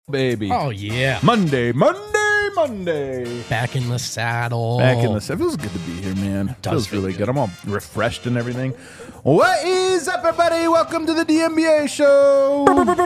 Baby. Oh, yeah. Monday. Back in the saddle. It feels good to be here, man. It feels feel really good. good. I'm all refreshed and everything. What is up, everybody? Welcome to the DNBA show.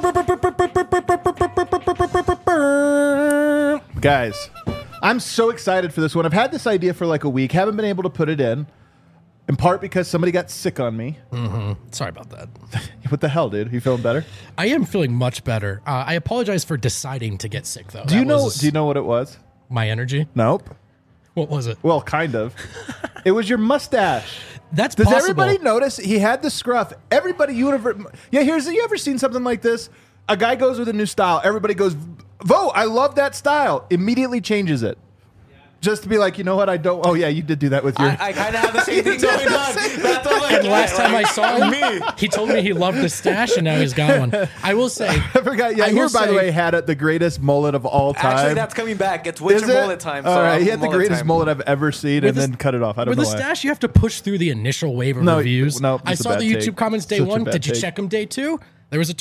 Guys, I'm so excited for this one. I've had this idea for like a week. Haven't been able to put it in part because somebody got sick on me. Sorry about that. What the hell, dude? You feeling better? I am feeling much better. I apologize for deciding to get sick, though. Do you know what it was? My energy? Nope. What was it? Well, kind of. It was your mustache. That's Does possible. everybody notice he had the scruff? Everybody, you ever seen something like this? A guy goes with a new style. Everybody goes, vote. I love that style. Immediately changes it. Just to be like, you know what? I don't. Oh, yeah, you did do that with your. I kind of have the same thing going on. That's all And last time I saw him, he told me he loved the stash, and now he's got one. I will say. I forgot. Yeah, you, by the way, had the greatest mullet of all time. Actually, that's coming back. It's winter mullet time. All right, he had the mullet greatest time. mullet I've ever seen, and then cut it off. I don't With know the why. stash, you have to push through the initial wave of No, reviews. no, I it's a saw bad the YouTube take. comments day Such a one. bad Did you take. check them day two? There was a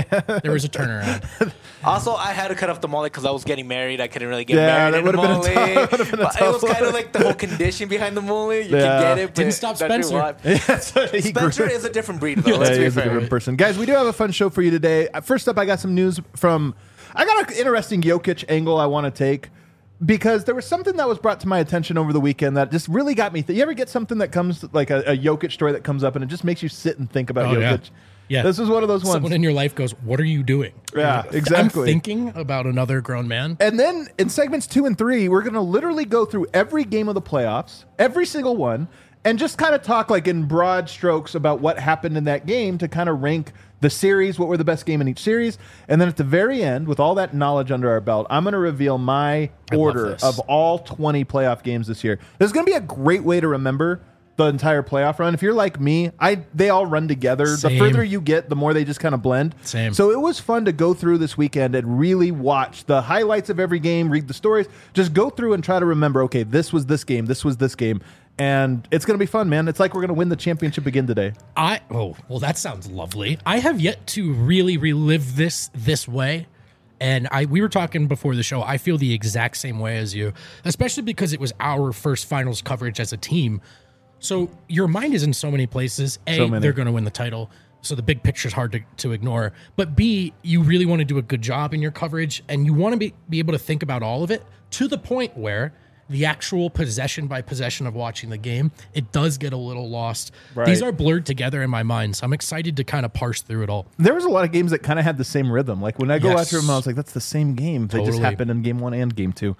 turnaround. Also, I had to cut off the mullet because I was getting married. I couldn't really get Yeah, married that in the would've mullet. been a tough- But it was kind of like the whole condition behind the mullet. You Yeah. can get it. But Didn't stop that's Spencer. why. He grew- Spencer is a different breed, though. Yeah, Let's he be is a fair. different person. Guys, we do have a fun show for you today. First up, I got some news from... I got an interesting Jokic angle I want to take because there was something that was brought to my attention over the weekend that just really got me... You ever get something that comes, like a Jokic story that comes up and it just makes you sit and think about Oh, yeah. Jokic? Yeah. This is one of those ones. Someone in your life goes, "What are you doing?" Yeah, exactly. I'm thinking about another grown man. And then in segments 2 and 3, we're going to literally go through every game of the playoffs, every single one, and just kind of talk like in broad strokes about what happened in that game to kind of rank the series, what were the best game in each series. And then at the very end, with all that knowledge under our belt, I'm going to reveal my order this. of all 20 playoff games this year. This is going to be a great way to remember the entire playoff run. If you're like me, they all run together. Same. The further you get, the more they just kind of blend. Same. So it was fun to go through this weekend and really watch the highlights of every game, read the stories, just go through and try to remember, okay, this was this game, this was this game. And it's going to be fun, man. It's like we're going to win the championship again today. Well, that sounds lovely. I have yet to really relive this way. And we were talking before the show. I feel the exact same way as you, especially because it was our first finals coverage as a team. So your mind is in so many places. A, they're going to win the title, so the big picture is hard to ignore. But B, you really want to do a good job in your coverage, and you want to be able to think about all of it to the point where the actual possession by possession of watching the game, it does get a little lost. Right. These are blurred together in my mind, so I'm excited to kind of parse through it all. There was a lot of games that kind of had the same rhythm. Like when I go Yes. watch them, I was like, that's the same game. They just Totally. happened in game 1 and game 2.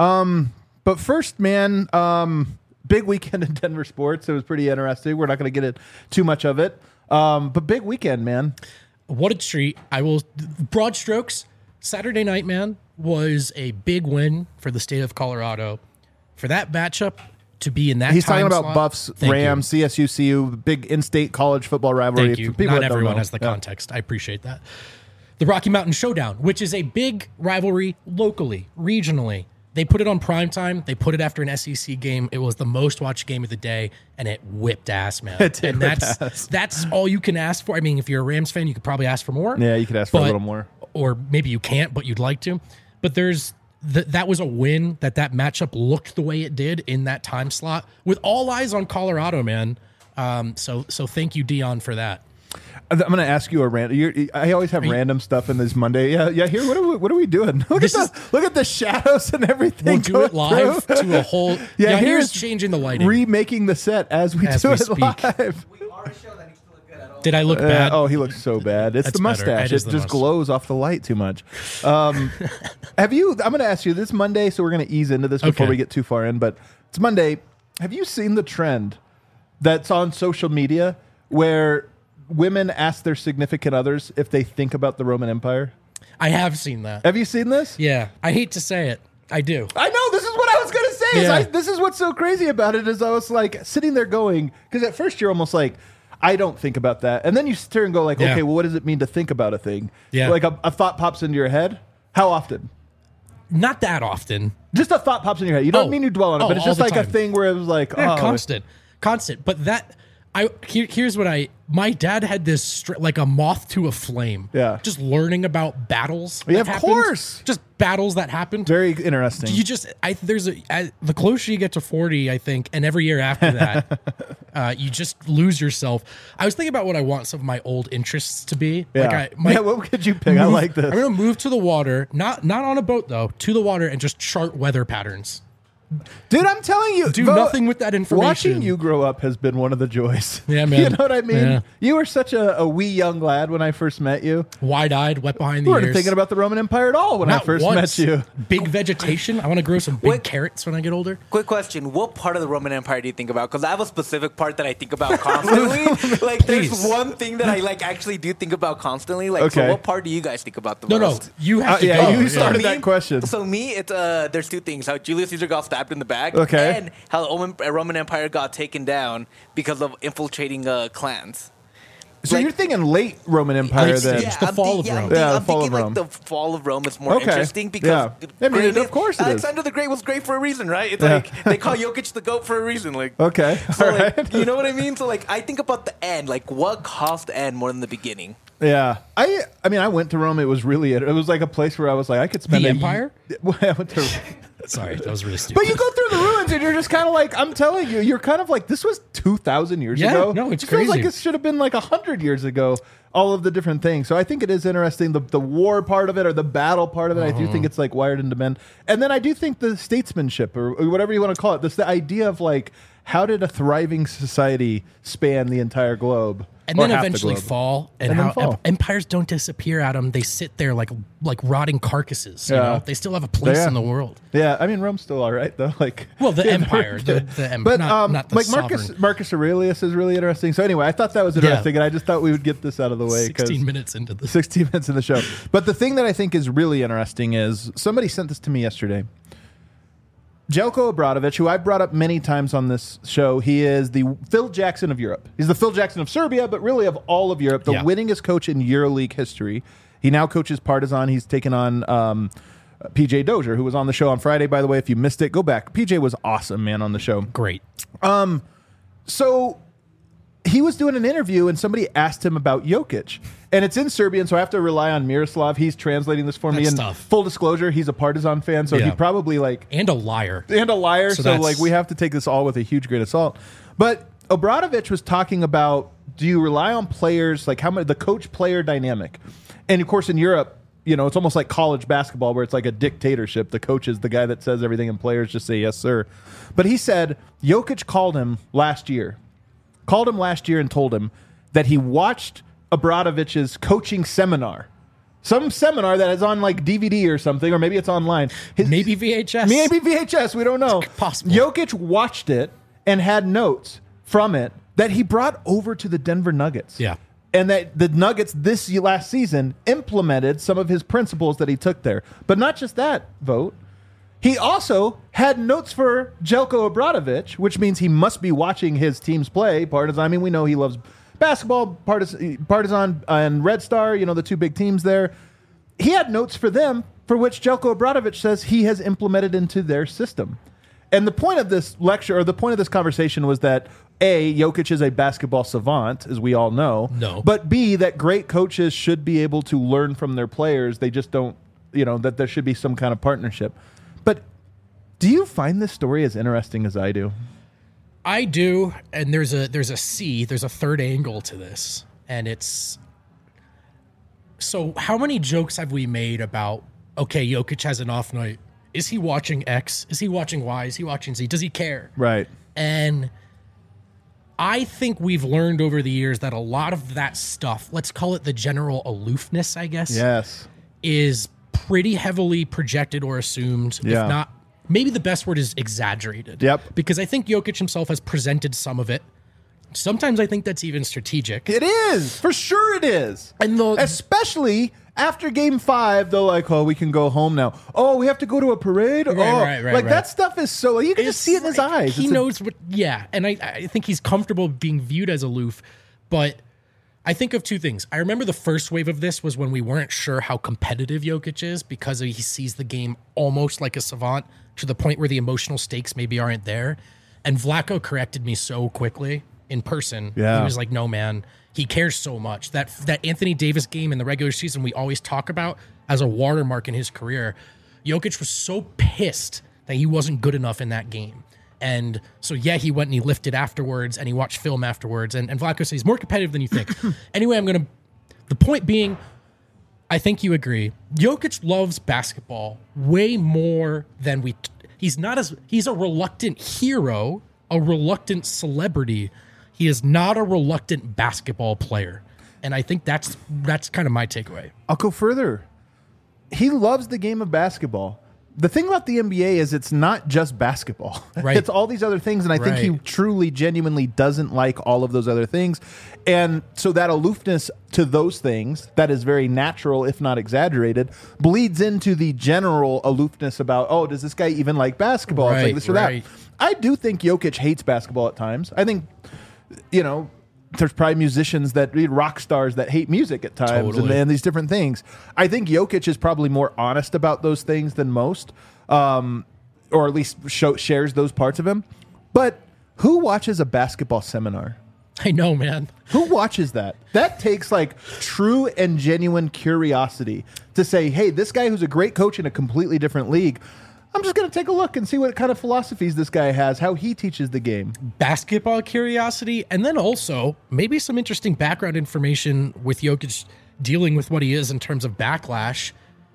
But first, man, big weekend in Denver sports. It was pretty interesting. We're not going to get it too much of it. But big weekend, man. What a treat. Broad strokes, Saturday night, man, was a big win for the state of Colorado. For that matchup to be in that He's time talking about slot, Buffs, thank Rams, CSU, CU, big in-state college football rivalry. Thank you. For people Not that don't everyone know. has the Yeah. context. I appreciate that. The Rocky Mountain Showdown, which is a big rivalry locally, regionally. They put it on primetime. They put it after an SEC game. It was the most watched game of the day, and it whipped ass, man. It did and whip ass. that's all you can ask for. I mean, if you're a Rams fan, you could probably ask for more. Yeah, you could ask for a But- little more. Or maybe you can't, but you'd like to. But that was a win that matchup looked the way it did in that time slot with all eyes on Colorado, man. So thank you, Dion, for that. I'm going to ask you a random. I always have random stuff in this Monday. Yeah. Here, what are we doing? Look at the shadows and everything. We'll do it going live through. to a whole. Yeah, Here's changing the lighting. Remaking the set as we do it speak. live. We are a show that needs to look good at all. Did I look bad? Oh, he looks so bad. It's That's the better. mustache. It is It the just mustache. glows off the light too much. I'm going to ask you this Monday, so we're going to ease into this before Okay. we get too far in. But it's Monday. Have you seen the trend that's on social media where women ask their significant others if they think about the Roman Empire? I have seen that. Have you seen this? Yeah. I hate to say it. I do. I know. This is what I was going to say. Yeah. This is what's so crazy about it is I was like sitting there going, because at first you're almost like, I don't think about that. And then you sit there and go like, Yeah. okay, well, what does it mean to think about a thing? Yeah. Like a thought pops into your head. How often? Not that often. Just a thought pops in your head. You don't Oh. mean you dwell on it, Oh, but it's all just the like a time. thing where it was like, Yeah, oh, constant. But that, Here's what my dad had this like a moth to a flame. Yeah. Just learning about battles. Yeah, that of course. Just battles that happened. Very interesting. The closer you get to 40, I think, and every year after that, you just lose yourself. I was thinking about what I want some of my old interests to be. Yeah. What could you pick? I like this. I'm going to move to the water, not on a boat though, to the water and just chart weather patterns. Dude, I'm telling you, do nothing with that information. Watching you grow up has been one of the joys. Yeah, man. You know what I mean? Yeah. You were such a wee young lad when I first met you. Wide-eyed, wet behind the You ears. weren't thinking about the Roman Empire at all when I first met you. Big vegetation. I want to grow some big carrots when I get older. Quick question: what part of the Roman Empire do you think about? Because I have a specific part that I think about constantly. Like, there's one thing that I actually do think about constantly. Like, so what part do you guys think about the most? No, you have to go. Yeah, you started that question. So me, it's there's two things: how Julius Caesar got stabbed in the back. Okay. And how the Roman Empire got taken down because of infiltrating clans. So you're thinking late Roman Empire then? Yeah, the fall of Rome. I'm thinking like the fall of Rome is more interesting because of course Alexander the Great was great for a reason, right? It's like they call Jokic the GOAT for a reason. Like, okay, so you know what I mean? So like I think about the end, like what caused the end more than the beginning. Yeah, I mean, I went to Rome. It was like a place where I was like, I could spend the empire. I went to. Sorry, that was really stupid. But you go through the ruins and you're just kind of like, I'm telling you, you're kind of like, this was 2,000 years ago. No, it's it feels crazy. like it should have been like 100 years ago. All of the different things. So I think it is interesting. The war part of it or the battle part of it, I do think it's like wired into men. And then I do think the statesmanship or whatever you want to call it, the idea of like, how did a thriving society span the entire globe? And then eventually fall, and how empires don't disappear, Adam. They sit there like rotting carcasses. You know? They still have a place in the world. Yeah, I mean Rome's still all right though. Like, well, the empire, the but not the like sovereign. Marcus Aurelius is really interesting. So anyway, I thought that was interesting, and I just thought we would get this out of the way. 16 minutes into the 16 minutes in the show. But the thing that I think is really interesting is somebody sent this to me yesterday. Jelko Obradovic, who I've brought up many times on this show, he is the Phil Jackson of Europe. He's the Phil Jackson of Serbia, but really of all of Europe, the winningest coach in EuroLeague history. He now coaches Partizan. He's taken on PJ Dozier, who was on the show on Friday, by the way. If you missed it, go back. PJ was awesome, man, on the show. Great. So he was doing an interview, and somebody asked him about Jokic. And it's in Serbian, so I have to rely on Miroslav. He's translating this for me. And tough. Full disclosure, he's a Partizan fan, so he probably like... And a liar. So like we have to take this all with a huge grain of salt. But Obradovic was talking about, do you rely on players, like how much the coach-player dynamic? And of course in Europe, you know, it's almost like college basketball where it's like a dictatorship. The coach is the guy that says everything and players just say yes, sir. But he said Jokic called him last year and told him that he watched Obradovic's coaching seminar. Some seminar that is on like DVD or something, or maybe it's online. Maybe VHS. Maybe VHS, we don't know. It's possible. Jokic watched it and had notes from it that he brought over to the Denver Nuggets. Yeah. And that the Nuggets this last season implemented some of his principles that he took there. But not just that, Vote. He also had notes for Jelko Obradovic, which means he must be watching his teams play. Partizan, I mean, we know he loves basketball, Partizan and Red Star, you know, the two big teams there. He had notes for them for which Jelko Obradovic says he has implemented into their system. And the point of this lecture, or the point of this conversation was that A, Jokic is a basketball savant, as we all know. No. But B, that great coaches should be able to learn from their players. They just don't, you know, that there should be some kind of partnership. But do you find this story as interesting as I do? I do, and there's a third angle to this, and it's so how many jokes have we made about, okay, Jokic has an off night. Is he watching X? Is he watching Y? Is he watching Z? Does he care? Right. And I think we've learned over the years that a lot of that stuff, let's call it the general aloofness, I guess, yes, is pretty heavily projected or assumed, Yeah. if not, maybe the best word is exaggerated. Yep. Because I think Jokic himself has presented some of it. Sometimes I think that's even strategic. It is. For sure it is. And especially after game 5, they're like, oh, we can go home now. Oh, we have to go to a parade? Right. That stuff is so, you can just see it in his eyes. He knows what, and I think he's comfortable being viewed as aloof. But I think of two things. I remember the first wave of this was when we weren't sure how competitive Jokic is because he sees the game almost like a savant to the point where the emotional stakes maybe aren't there. And Vlatko corrected me so quickly. in person. Yeah. He was like, no, man, he cares so much. That Anthony Davis game in the regular season we always talk about as a watermark in his career. Jokic was so pissed that he wasn't good enough in that game. And so, yeah, he went and he lifted afterwards and he watched film afterwards. And Vlatko says he's more competitive than you think. Anyway, the point being, I think you agree. Jokic loves basketball way more than he's a reluctant hero, a reluctant celebrity. He is not a reluctant basketball player. And I think that's kind of my takeaway. I'll go further. He loves the game of basketball. The thing about the NBA is it's not just basketball. Right. It's all these other things, and I think he truly, genuinely doesn't like all of those other things. And so that aloofness to those things, that is very natural, if not exaggerated, bleeds into the general aloofness about, oh, does this guy even like basketball? It's like this or that. I do think Jokic hates basketball at times. I think, there's probably musicians rock stars that hate music at times and these different things. I think Jokic is probably more honest about those things than most, or at least shares those parts of him. But who watches a basketball seminar? I know, man. Who watches that? That takes like true and genuine curiosity to say, hey, this guy who's a great coach in a completely different league, I'm just going to take a look and see what kind of philosophies this guy has, how he teaches the game. Basketball curiosity, and then also maybe some interesting background information with Jokic dealing with what he is in terms of backlash.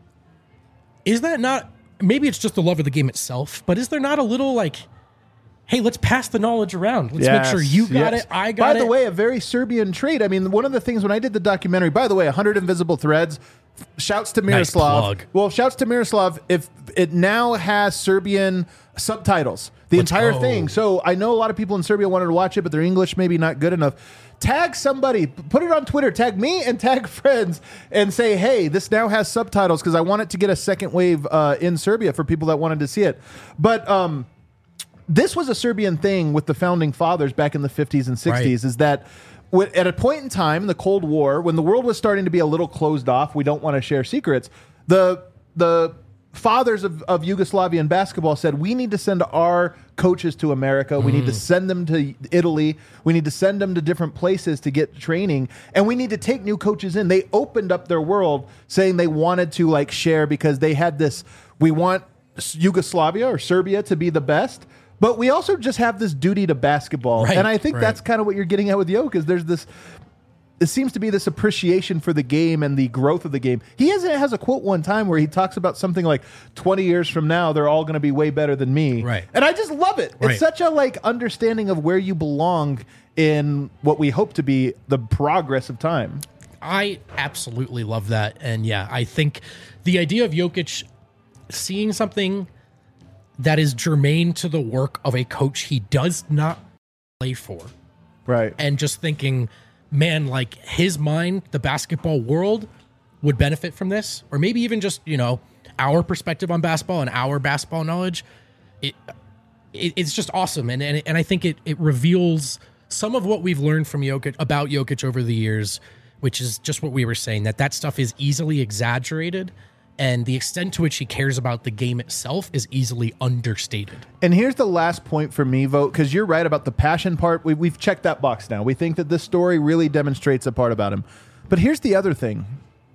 Is that not, maybe it's just the love of the game itself, but is there not a little like, hey, let's pass the knowledge around. Let's make sure you got it, I got it. By the way, a very Serbian trait. I mean, one of the things when I did the documentary, by the way, 100 Invisible Threads, shouts to Miroslav. Nice. Well, shouts to Miroslav. If it now has Serbian subtitles, the entire thing. So I know a lot of people in Serbia wanted to watch it, but their English maybe not good enough. Tag somebody, put it on Twitter, tag me and tag friends and say, hey, this now has subtitles because I want it to get a second wave in Serbia for people that wanted to see it. But this was a Serbian thing with the founding fathers back in the 50s and 60s, is that at a point in time in the Cold War, when the world was starting to be a little closed off, we don't want to share secrets, the fathers of Yugoslavian basketball said, we need to send our coaches to America. We need to send them to Italy. We need to send them to different places to get training. And we need to take new coaches in. They opened up their world saying they wanted to like share because they had this, we want Yugoslavia or Serbia to be the best. But we also just have this duty to basketball. And I think that's kind of what you're getting at with Jokic, is there's this, it seems to be this appreciation for the game and the growth of the game. He has a quote one time where he talks about something like 20 years from now, they're all going to be way better than me. Right. And I just love it. It's such a like understanding of where you belong in what we hope to be the progress of time. I absolutely love that. And yeah, I think the idea of Jokic seeing something that is germane to the work of a coach he does not play for. Right. And just thinking, man, like his mind, the basketball world would benefit from this, or maybe even just, our perspective on basketball and our basketball knowledge. It's just awesome. And I think it reveals some of what we've learned from about Jokic over the years, which is just what we were saying, that stuff is easily exaggerated. And the extent to which he cares about the game itself is easily understated. And here's the last point for me, Vogt, because you're right about the passion part. We've checked that box now. We think that this story really demonstrates a part about him. But here's the other thing.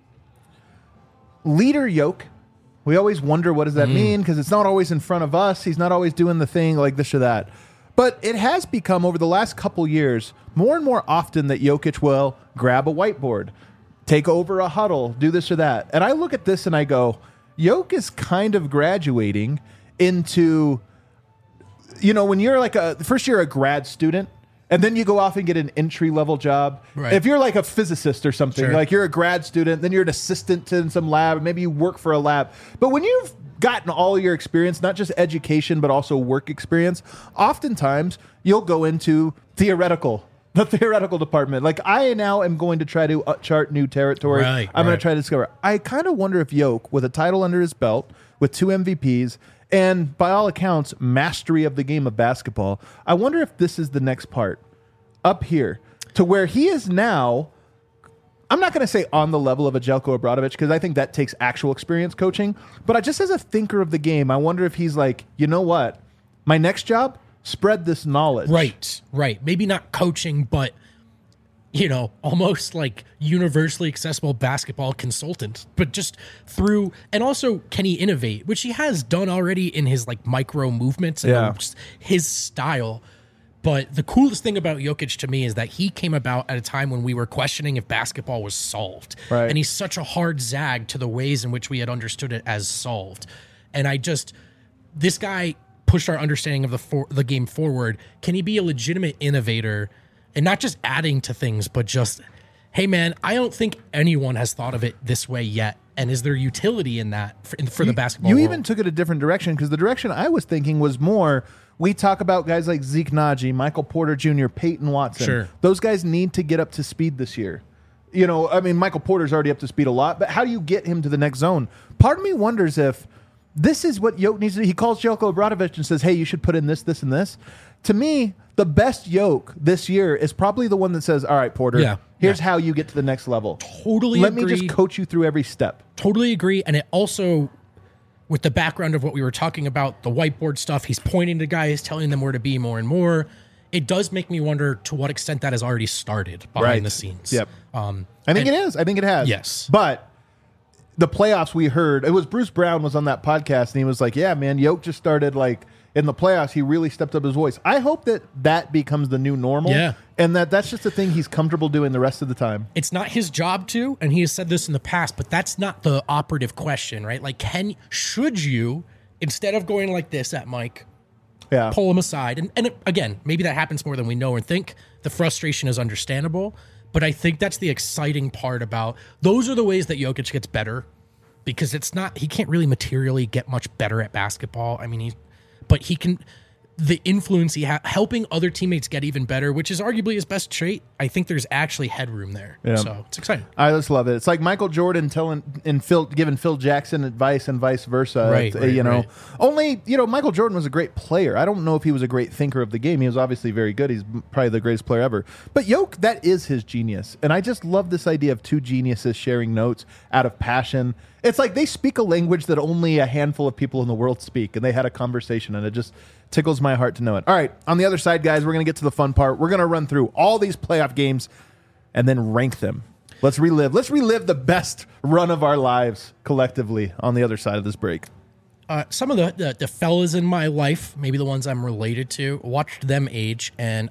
Leader Yoke, we always wonder what does that mean, because it's not always in front of us. He's not always doing the thing like this or that. But it has become, over the last couple years, more and more often that Jokic will grab a whiteboard, take over a huddle, do this or that. And I look at this and I go, Jokic is kind of graduating into, when you're like first you're a grad student and then you go off and get an entry-level job. Right. If you're like a physicist or something, like you're a grad student, then you're an assistant in some lab, maybe you work for a lab. But when you've gotten all your experience, not just education, but also work experience, oftentimes you'll go into the theoretical department. Like I now am going to try to chart new territory. I'm going to try to discover. I kind of wonder if Jokic, with a title under his belt, with 2 MVPs, and by all accounts, mastery of the game of basketball, I wonder if this is the next part up here to where he is now. I'm not going to say on the level of a Jelko Obradovic, because I think that takes actual experience coaching. But just as a thinker of the game, I wonder if he's like, you know what? My next job, spread this knowledge. Right. Maybe not coaching, but almost like universally accessible basketball consultant, but just through, and also can he innovate, which he has done already in his like micro movements and just his style. But the coolest thing about Jokic to me is that he came about at a time when we were questioning if basketball was solved. Right. And he's such a hard zag to the ways in which we had understood it as solved. And this guy pushed our understanding of the game forward. Can he be a legitimate innovator and not just adding to things, but just, hey man, I don't think anyone has thought of it this way yet. And is there utility in that for the basketball world? Even took it a different direction, because the direction I was thinking was more, we talk about guys like Zeke Naji, Michael Porter Jr., Peyton Watson. Sure. Those guys need to get up to speed this year. Michael Porter's already up to speed a lot, but how do you get him to the next zone? Part of me wonders if this is what Yoke needs to do. He calls Jelko Obradovic and says, hey, you should put in this, this, and this. To me, the best Yoke this year is probably the one that says, all right, Porter, here's how you get to the next level. Totally Let agree. me just coach you through every step. Totally agree. And it also, with the background of what we were talking about, the whiteboard stuff, he's pointing to guys, telling them where to be more and more. It does make me wonder to what extent that has already started behind the scenes. Yep. I think it is. I think it has. Yes. But the playoffs, we heard, it was Bruce Brown was on that podcast, and he was like, yeah, man, Yoke just started like in the playoffs, he really stepped up his voice. I hope that becomes the new normal. Yeah. And that's just a thing he's comfortable doing the rest of the time. It's not his job to, and he has said this in the past, but that's not the operative question, right? Like, should you, instead of going like this at Mike, pull him aside? And again, maybe that happens more than we know and think. The frustration is understandable, but I think that's the exciting part about, those are the ways that Jokic gets better, because he can't really materially get much better at basketball. I mean, but he can, the influence he has, helping other teammates get even better, which is arguably his best trait. I think there's actually headroom there. Yeah. So it's exciting. I just love it. It's like Michael Jordan giving Phil Jackson advice and vice versa. Right. Only, Michael Jordan was a great player. I don't know if he was a great thinker of the game. He was obviously very good. He's probably the greatest player ever. But Yoke, that is his genius. And I just love this idea of two geniuses sharing notes out of passion. It's like they speak a language that only a handful of people in the world speak, and they had a conversation, and it just tickles my heart to know it. All right, on the other side, guys, we're going to get to the fun part. We're going to run through all these playoff games and then rank them. Let's relive the best run of our lives collectively on the other side of this break. Some of the fellas in my life, maybe the ones I'm related to, watched them age, and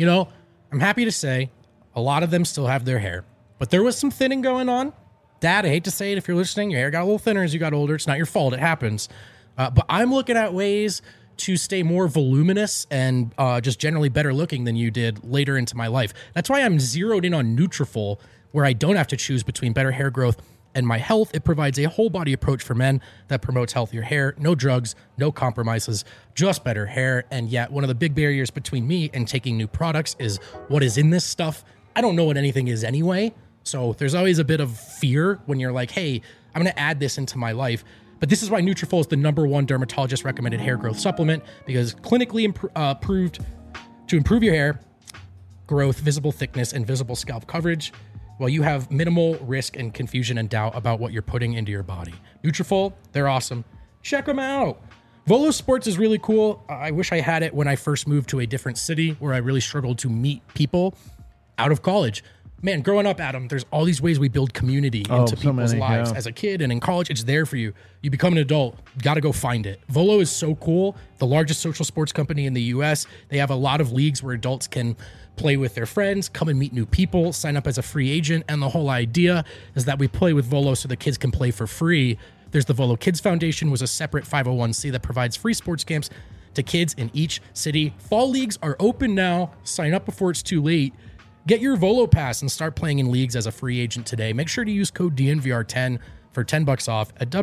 I'm happy to say a lot of them still have their hair, but there was some thinning going on. Dad, I hate to say it, if you're listening, your hair got a little thinner as you got older. It's not your fault. It happens. But I'm looking at ways to stay more voluminous and just generally better looking than you did later into my life. That's why I'm zeroed in on Nutrafol, where I don't have to choose between better hair growth and my health. It provides a whole body approach for men that promotes healthier hair, no drugs, no compromises, just better hair. And yet one of the big barriers between me and taking new products is what is in this stuff. I don't know what anything is anyway. So there's always a bit of fear when you're like, hey, I'm going to add this into my life. But this is why Nutrafol is the #1 dermatologist recommended hair growth supplement, because clinically proved to improve your hair growth, visible thickness, and visible scalp coverage, while you have minimal risk and confusion and doubt about what you're putting into your body. Nutrafol, they're awesome. Check them out. Volo Sports is really cool. I wish I had it when I first moved to a different city where I really struggled to meet people out of college. Man, growing up, Adam, there's all these ways we build community into people's lives. As a kid and in college, it's there for you. You become an adult, got to go find it. Volo is so cool. The largest social sports company in the U.S. They have a lot of leagues where adults can play with their friends, come and meet new people, sign up as a free agent. And the whole idea is that we play with Volo so the kids can play for free. There's the Volo Kids Foundation, was a separate 501c that provides free sports camps to kids in each city. Fall leagues are open now. Sign up before it's too late. Get your Volo Pass and start playing in leagues as a free agent today. Make sure to use code DNVR10 for $10 off at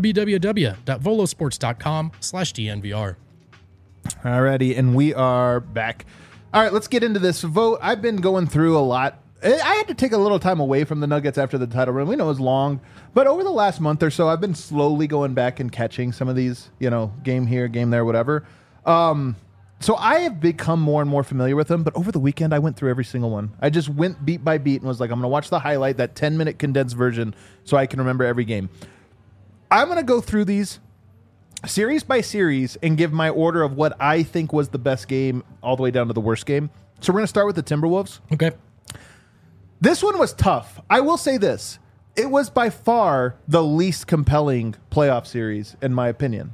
www.volosports.com/DNVR. Alrighty, and we are back. All right, let's get into this vote. I've been going through a lot. I had to take a little time away from the Nuggets after the title run. We know it was long, but over the last month or so, I've been slowly going back and catching some of these, game here, game there, whatever. So I have become more and more familiar with them, but over the weekend, I went through every single one. I just went beat by beat and was like, I'm going to watch the highlight, that 10-minute condensed version, so I can remember every game. I'm going to go through these series by series and give my order of what I think was the best game all the way down to the worst game. So we're going to start with the Timberwolves. Okay. This one was tough. I will say this. It was by far the least compelling playoff series, in my opinion.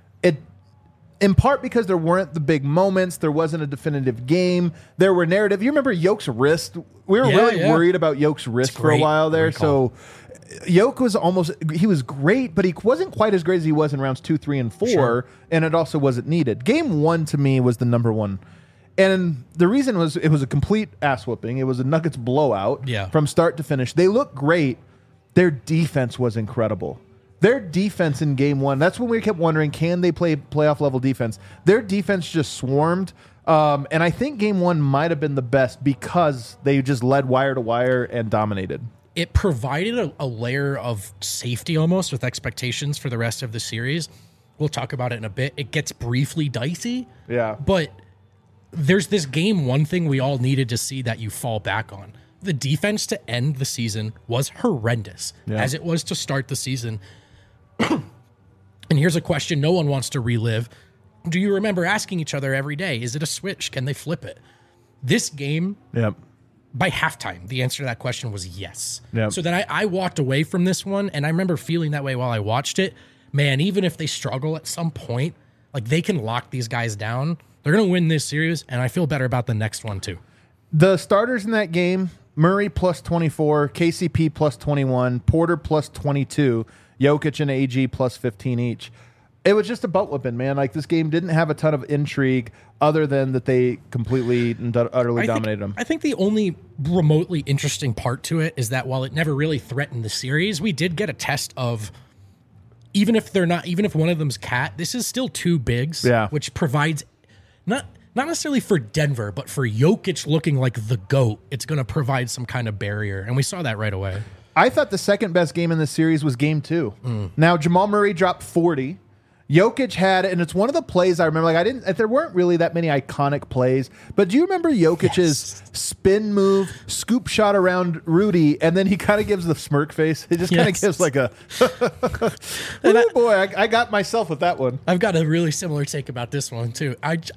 In part because there weren't the big moments. There wasn't a definitive game. There were narrative. You remember Yoke's wrist? We were really worried about Yoke's wrist for a while there. So Yoke was he was great, but he wasn't quite as great as he was in rounds 2, 3, and 4. Sure. And it also wasn't needed. Game 1 to me was the number one. And the reason was it was a complete ass whooping. It was a Nuggets blowout from start to finish. They looked great. Their defense was incredible. Their defense in game 1, that's when we kept wondering, can they play playoff level defense? Their defense just swarmed. And I think game 1 might have been the best because they just led wire to wire and dominated. It provided a layer of safety almost with expectations for the rest of the series. We'll talk about it in a bit. It gets briefly dicey. Yeah. But there's this game 1 thing we all needed to see that you fall back on. The defense to end the season was horrendous, as it was to start the season. And here's a question no one wants to relive. Do you remember asking each other every day, is it a switch? Can they flip it? This game, by halftime, the answer to that question was yes. So then I walked away from this one, and I remember feeling that way while I watched it. Man, even if they struggle at some point, like they can lock these guys down. They're going to win this series, and I feel better about the next one too. The starters in that game, Murray plus 24, KCP plus 21, Porter plus 22, Jokic and AG plus 15 each. It was just a butt whipping, man. Like, this game didn't have a ton of intrigue other than that they completely and utterly dominated them. I think the only remotely interesting part to it is that while it never really threatened the series, we did get a test of even if one of them's Cat, this is still 2 bigs, which provides not necessarily for Denver, but for Jokic looking like the GOAT, it's going to provide some kind of barrier. And we saw that right away. I thought the second best game in the series was game 2. Now, Jamal Murray dropped 40. Jokic had, and it's one of the plays I remember, there weren't really that many iconic plays, but do you remember Jokic's spin move, scoop shot around Rudy, and then he kind of gives the smirk face? He just kind of gives like a, oh boy, I got myself with that one. I've got a really similar take about this one too.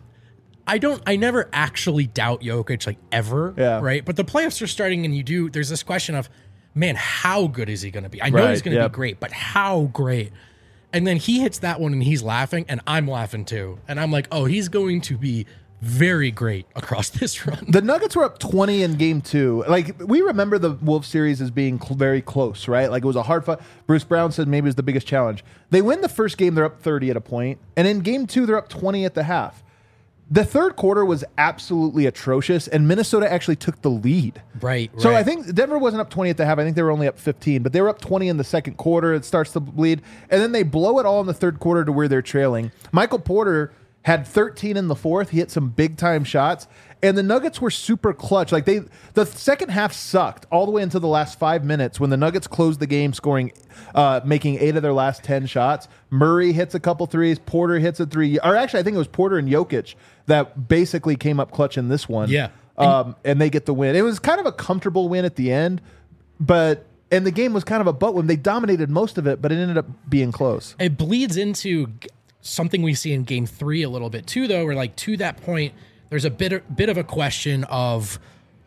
I never actually doubt Jokic, like, ever, right? But the playoffs are starting, and there's this question of, man, how good is he going to be? I know he's going to be great, but how great? And then he hits that one, and he's laughing, and I'm laughing too. And I'm like, oh, he's going to be very great across this run. The Nuggets were up 20 in game 2. Like, we remember the Wolves series as being very close, right? Like, it was a hard fight. Bruce Brown said maybe it was the biggest challenge. They win the first game, they're up 30 at a point. And in game 2, they're up 20 at the half. The third quarter was absolutely atrocious, and Minnesota actually took the lead. Right. So I think Denver wasn't up 20 at the half. I think they were only up 15, but they were up 20 in the second quarter. It starts to bleed, and then they blow it all in the third quarter to where they're trailing. Michael Porter had 13 in the fourth. He hit some big-time shots, and the Nuggets were super clutch. Like, the second half sucked all the way into the last 5 minutes when the Nuggets closed the game, making 8 of their last 10 shots. Murray hits a couple threes. Porter hits a 3. Or actually, I think it was Porter and Jokic that basically came up clutch in this one. Yeah. And they get the win. It was kind of a comfortable win at the end, and the game was kind of a butt win. They dominated most of it, but it ended up being close. It bleeds into something we see in game 3 a little bit too, though, where, like, to that point, there's a bit of a question of,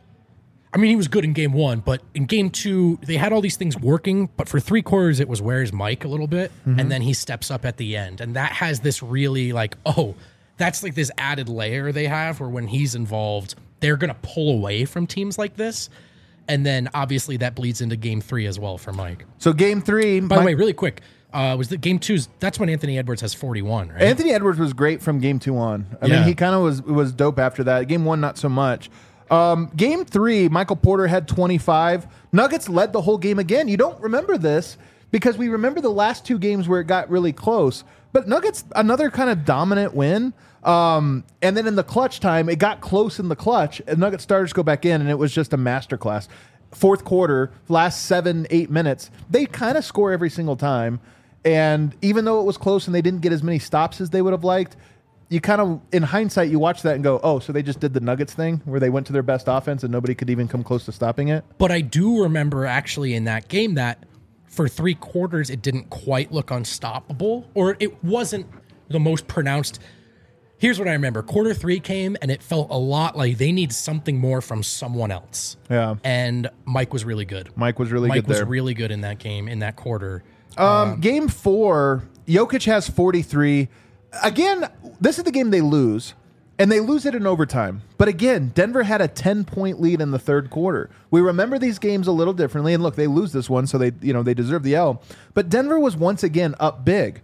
I mean, he was good in game 1, but in game 2, they had all these things working, but for 3 quarters, it was where's Mike a little bit, and then he steps up at the end. And that has this really, like, that's like this added layer they have where when he's involved, they're going to pull away from teams like this. And then, obviously, that bleeds into game 3 as well for Mike. So game 3... By the way, really quick, was the game 2's, that's when Anthony Edwards has 41, right? Anthony Edwards was great from game 2 on. I mean, he kind of was dope after that. Game 1, not so much. Game 3, Michael Porter had 25. Nuggets led the whole game again. You don't remember this because we remember the last 2 games where it got really close. But Nuggets, another kind of dominant win. And then in the clutch time, it got close in the clutch, and Nuggets starters go back in, and it was just a masterclass. Fourth quarter, last 7-8 minutes, they kind of score every single time. And even though it was close and they didn't get as many stops as they would have liked, you kind of, in hindsight, you watch that and go, oh, so they just did the Nuggets thing where they went to their best offense and nobody could even come close to stopping it? But I do remember actually in that game that for 3 quarters, it didn't quite look unstoppable, or it wasn't the most pronounced. Here's what I remember. Quarter 3 came, and it felt a lot like they need something more from someone else. Yeah. And Mike was really good. Mike was really good in that game, in that quarter. Game 4, Jokic has 43. Again, this is the game they lose, and they lose it in overtime. But again, Denver had a 10-point lead in the third quarter. We remember these games a little differently, and look, they lose this one, so they deserve the L. But Denver was once again up big.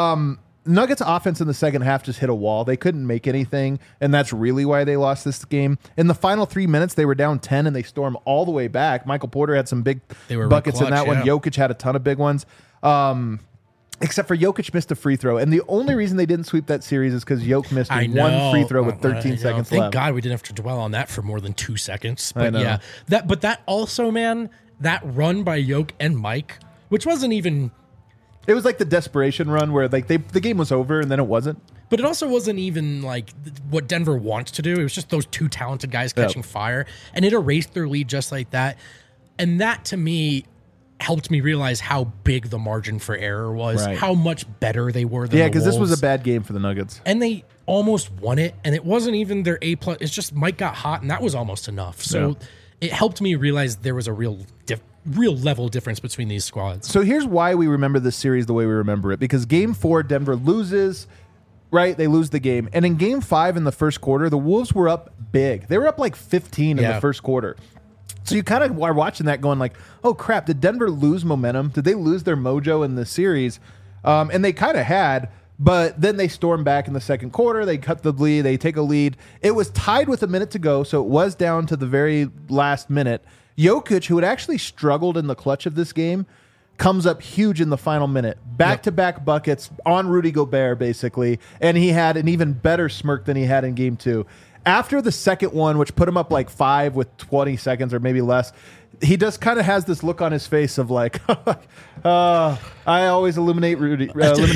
Nuggets offense in the second half just hit a wall. They couldn't make anything, and that's really why they lost this game. In the final 3 minutes, they were down 10, and they stormed all the way back. Michael Porter had some big buckets in that one. Jokic had a ton of big ones. Except for Jokic missed a free throw. And the only reason they didn't sweep that series is because Jokic missed one free throw with 13 seconds left. Thank God we didn't have to dwell on that for more than 2 seconds. But yeah, that also, man, that run by Jokic and Mike, which wasn't even... It was like the desperation run where like the game was over and then it wasn't. But it also wasn't even like what Denver wants to do. It was just those 2 talented guys catching fire. And it erased their lead just like that. And that, to me, helped me realize how big the margin for error was, how much better they were than the Wolves. Because this was a bad game for the Nuggets. And they almost won it, and it wasn't even their A+. It's just Mike got hot, and that was almost enough. So it helped me realize there was a real level difference between these squads. So here's why we remember this series the way we remember it. Because Game 4, Denver loses, right? They lose the game. And in Game 5 in the first quarter, the Wolves were up big. They were up like 15 in the first quarter. So you kind of are watching that going like, oh, crap, did Denver lose momentum? Did they lose their mojo in the series? And they kind of had, but then they stormed back in the second quarter. They cut the lead. They take a lead. It was tied with a minute to go, so it was down to the very last minute. Jokic, who had actually struggled in the clutch of this game, comes up huge in the final minute. Back-to-back buckets on Rudy Gobert, basically, and he had an even better smirk than he had in Game 2. After the second one, which put him up like 5 with 20 seconds or maybe less, he just kind of has this look on his face of like, I always eliminate Rudy.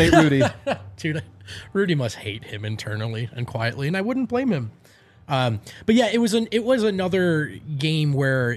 Dude, Rudy must hate him internally and quietly, and I wouldn't blame him. But yeah, it was another game where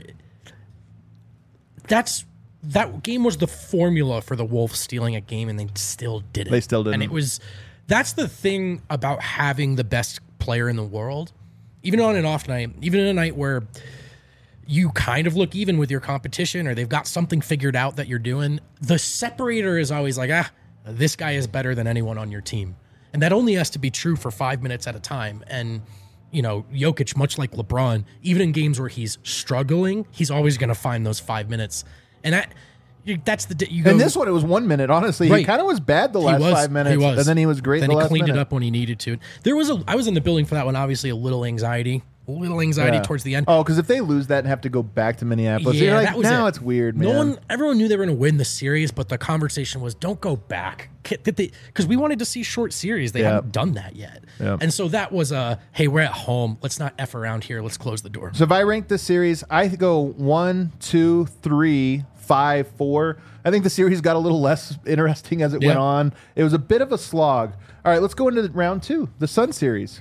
that game was the formula for the Wolves stealing a game, and they still didn't. They still didn't. And that's the thing about having the best player in the world, even on an off night, even in a night where you kind of look even with your competition or they've got something figured out that you're doing, the separator is always like, this guy is better than anyone on your team. And that only has to be true for 5 minutes at a time. And, Jokic, much like LeBron, even in games where he's struggling, he's always going to find those 5 minutes. And that's in this one, it was 1 minute. Honestly, he kind of was bad the last 5 minutes, and then he was great. Then he cleaned it up when he needed to. I was in the building for that one. Obviously, a little anxiety towards the end. Oh, because if they lose that and have to go back to Minneapolis, you're like, now it's weird, man. Everyone knew they were going to win the series, but the conversation was, don't go back, because we wanted to see short series. They haven't done that yet, and so that was hey, we're at home. Let's not F around here. Let's close the door. So if I rank this series, I go 1, 2, 3, 5, 4. I think the series got a little less interesting as it went on. It was a bit of a slog. All right, let's go into round 2, the Sun series.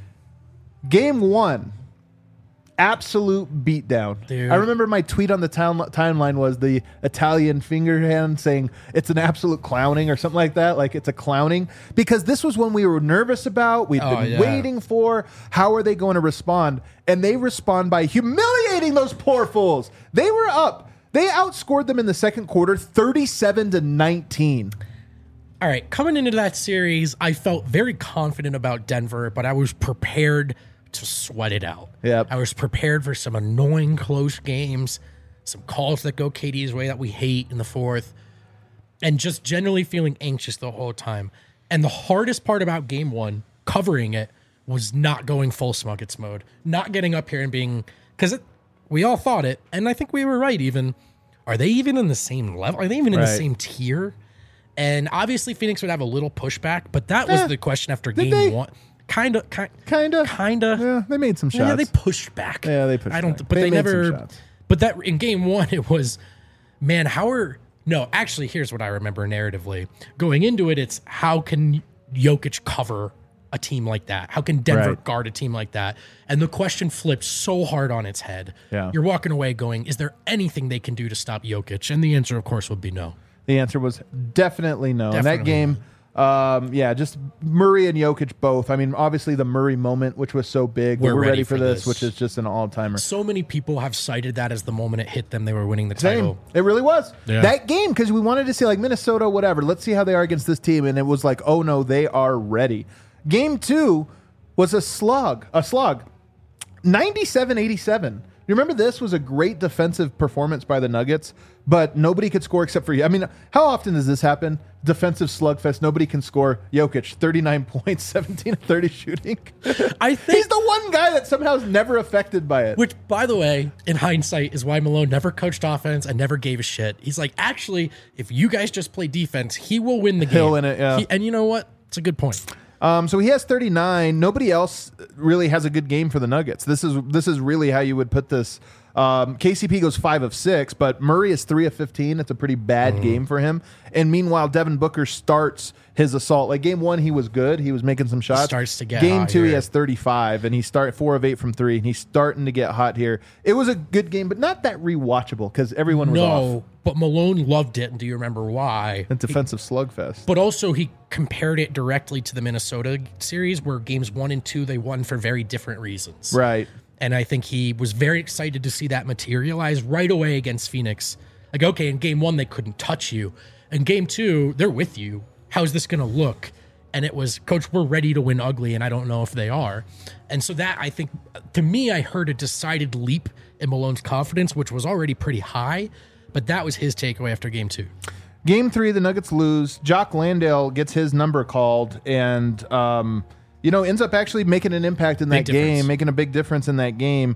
Game 1, absolute beatdown. Dude. I remember my tweet on the timeline was the Italian finger hand saying it's an absolute clowning or something like that. Like it's a clowning, because this was when we were nervous about, we've been waiting for, how are they going to respond? And they respond by humiliating those poor fools. They were up. They outscored them in the second quarter 37-19. All right, coming into that series, I felt very confident about Denver, but I was prepared to sweat it out. Yep. I was prepared for some annoying close games, some calls that go KD's way that we hate in the fourth, and just generally feeling anxious the whole time. And the hardest part about Game 1, covering it, was not going full Smuggets mode, not getting up here and being, because we all thought it, and I think we were right even. Are they even in the same level? Are they even in the same tier? And obviously Phoenix would have a little pushback, but that was the question after Game 1. Kind of. Yeah, they made some shots. Yeah, they pushed back. Yeah, they pushed back. But they never. But that in Game 1, it was, man, no, actually, here's what I remember narratively. Going into it, it's how can Jokic cover a team like that? How can Denver guard a team like that? And the question flipped so hard on its head. Yeah. You're walking away going, is there anything they can do to stop Jokic? And the answer, of course, would be no. The answer was definitely no. In that game, just Murray and Jokic both. I mean, obviously the Murray moment, which was so big. We're ready for this, which is just an all-timer. So many people have cited that as the moment it hit them. They were winning the title. It really was. Yeah. That game, because we wanted to see like Minnesota, whatever. Let's see how they are against this team. And it was like, oh no, they are ready. Game 2 was a slog. 97-87. You remember this was a great defensive performance by the Nuggets, but nobody could score except for you. I mean, how often does this happen? Defensive slugfest. Nobody can score. Jokic, 39 points, 17 of 30 shooting. I think he's the one guy that somehow is never affected by it. Which, by the way, in hindsight, is why Malone never coached offense and never gave a shit. He's like, actually, if you guys just play defense, he will win the game. He'll win it, yeah. And you know what? It's a good point. So he has 39. Nobody else really has a good game for the Nuggets. This is really how you would put this. KCP goes 5 of 6, but Murray is 3 of 15. It's a pretty bad game for him. And meanwhile, Devin Booker starts his assault. Like game 1, he was good. He was making some shots. Starts to get game hot 2, here. he has 35, and he start 4 of 8 from 3. And he's starting to get hot here. It was a good game, but not that rewatchable because everyone was off. But Malone loved it. And do you remember why? A defensive slugfest. But also he compared it directly to the Minnesota series where games 1 and 2, they won for very different reasons. Right. And I think he was very excited to see that materialize right away against Phoenix. Like, okay, in game 1, they couldn't touch you. In game 2, they're with you. How's this going to look? And it was, Coach, we're ready to win ugly, and I don't know if they are. And so that, I think, to me, I heard a decided leap in Malone's confidence, which was already pretty high. But that was his takeaway after game 2. Game 3, the Nuggets lose. Jock Landale gets his number called and, ends up actually making an impact in that game, making a big difference in that game.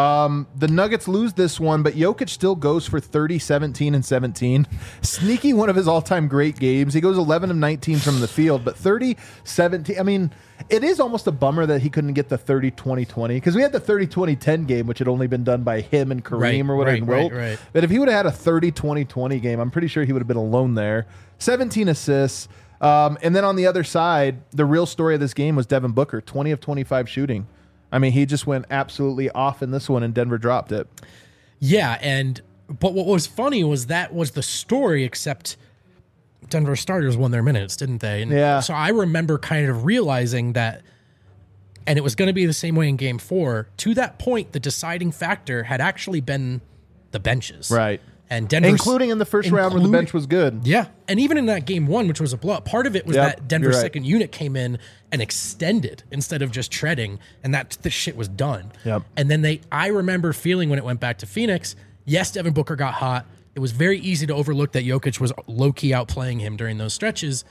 The Nuggets lose this one, but Jokic still goes for 30, 17, and 17. Sneaky one of his all-time great games. He goes 11 of 19 from the field, but 30, 17. I mean, it is almost a bummer that he couldn't get the 30-20-20 because we had the 30-20-10 game, which had only been done by him and Kareem or whatever. Right. But if he would have had a 30-20-20 game, I'm pretty sure he would have been alone there. 17 assists. And then on the other side, the real story of this game was Devin Booker, 20 of 25 shooting. I mean, he just went absolutely off in this one, and Denver dropped it. Yeah, but what was funny was that was the story, except Denver starters won their minutes, didn't they? And yeah. So I remember kind of realizing that, and it was going to be the same way in game 4. To that point, the deciding factor had actually been the benches. Right. And Denver, including in the first round where the bench was good. Yeah. And even in that game 1, which was a blowout, part of it was that Denver's second unit came in and extended instead of just treading, and that the shit was done. Yep. And then I remember feeling when it went back to Phoenix, yes, Devin Booker got hot. It was very easy to overlook that Jokic was low-key outplaying him during those stretches,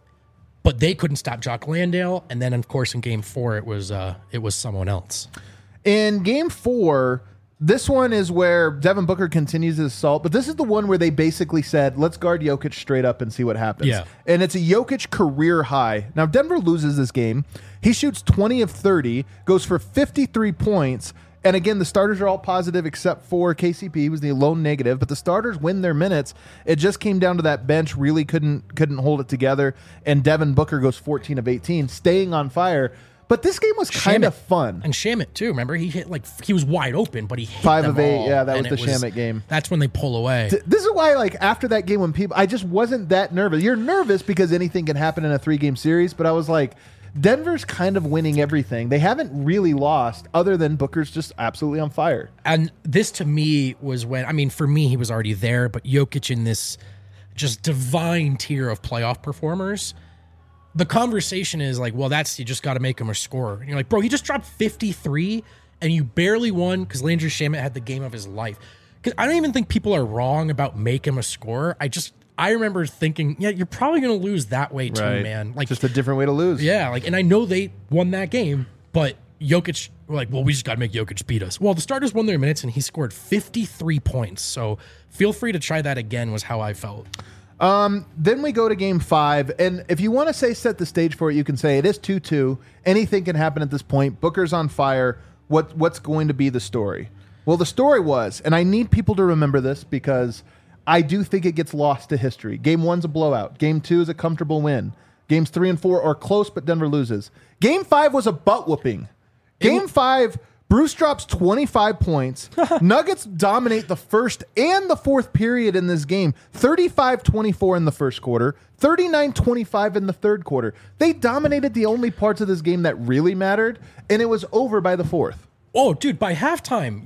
but they couldn't stop Jock Landale. And then, of course, in game 4, it was someone else. In game 4, this one is where Devin Booker continues his assault, but this is the one where they basically said, let's guard Jokic straight up and see what happens. Yeah. And it's a Jokic career high. Now, Denver loses this game. He shoots 20 of 30, goes for 53 points. And again, the starters are all positive except for KCP. He was the lone negative, but the starters win their minutes. It just came down to that bench really couldn't hold it together. And Devin Booker goes 14 of 18, staying on fire. But this game was kind of fun. And Shamet, too. Remember, he was wide open, but he hit 5 them of 8. all, Yeah, that was the Shamet game. That's when they pull away. This is why, like, after that game, I just wasn't that nervous. You're nervous because anything can happen in a 3-game series, but I was like, Denver's kind of winning everything. They haven't really lost other than Booker's just absolutely on fire. And this, to me, was when, I mean, for me, he was already there, but Jokic in this just divine tier of playoff performers. The conversation is like, well, you just got to make him a scorer. And you're like, bro, he just dropped 53 and you barely won because Landry Shamet had the game of his life. Because I don't even think people are wrong about make him a scorer. I remember thinking, yeah, you're probably going to lose that way too, man. Like, just a different way to lose. Yeah, and I know they won that game, but Jokic, we're like, well, we just got to make Jokic beat us. Well, the starters won their minutes and he scored 53 points. So feel free to try that again was how I felt. Then we go to game 5, and if you want to set the stage for it, you can say it is 2-2. Anything can happen at this point. Booker's on fire. What's going to be the story? Well, the story was, and I need people to remember this because I do think it gets lost to history. Game 1's a blowout. Game 2 is a comfortable win. Games 3 and 4 are close, but Denver loses. Game 5 was a butt whooping. Game 5, Bruce drops 25 points. Nuggets dominate the first and the fourth period in this game. 35-24 in the first quarter, 39-25 in the third quarter. They dominated the only parts of this game that really mattered, and it was over by the fourth. Oh, dude, by halftime,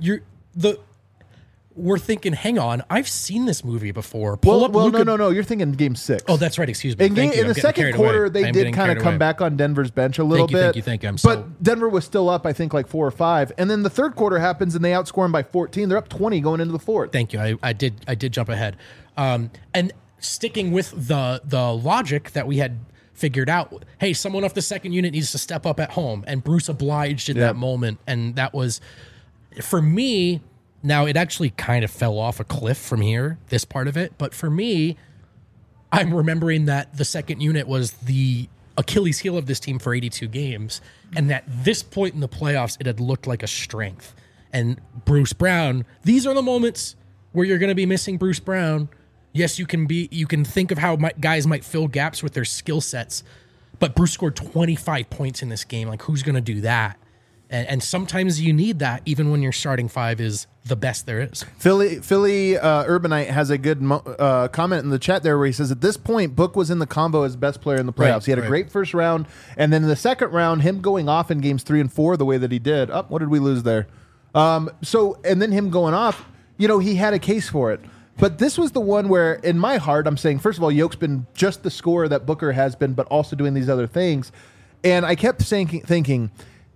we're thinking, hang on, I've seen this movie before. No. You're thinking game 6. Oh, that's right. Excuse me. In the second quarter, they did kind of come back on Denver's bench a little bit. Thank you. But Denver was still up, I think, like 4 or 5. And then the third quarter happens, and they outscore them by 14. They're up 20 going into the fourth. Thank you. I did jump ahead. And sticking with the logic that we had figured out, hey, someone off the second unit needs to step up at home, and Bruce obliged in that moment. And that was, for me... Now, it actually kind of fell off a cliff from here, this part of it. But for me, I'm remembering that the second unit was the Achilles heel of this team for 82 games. And at this point in the playoffs, it had looked like a strength. And Bruce Brown, these are the moments where you're going to be missing Bruce Brown. Yes, you can think of how guys might fill gaps with their skill sets. But Bruce scored 25 points in this game. Like, who's going to do that? And sometimes you need that, even when your starting five is the best there is. Philly Urbanite has a good comment in the chat there where he says, at this point, Book was in the combo as best player in the playoffs. He had a great first round, and then in the second round, him going off in games 3 and 4 the way that he did. Oh, what did we lose there? And then him going off, he had a case for it. But this was the one where, in my heart, I'm saying, first of all, Yoke's been just the scorer that Booker has been, but also doing these other things. And I kept thinking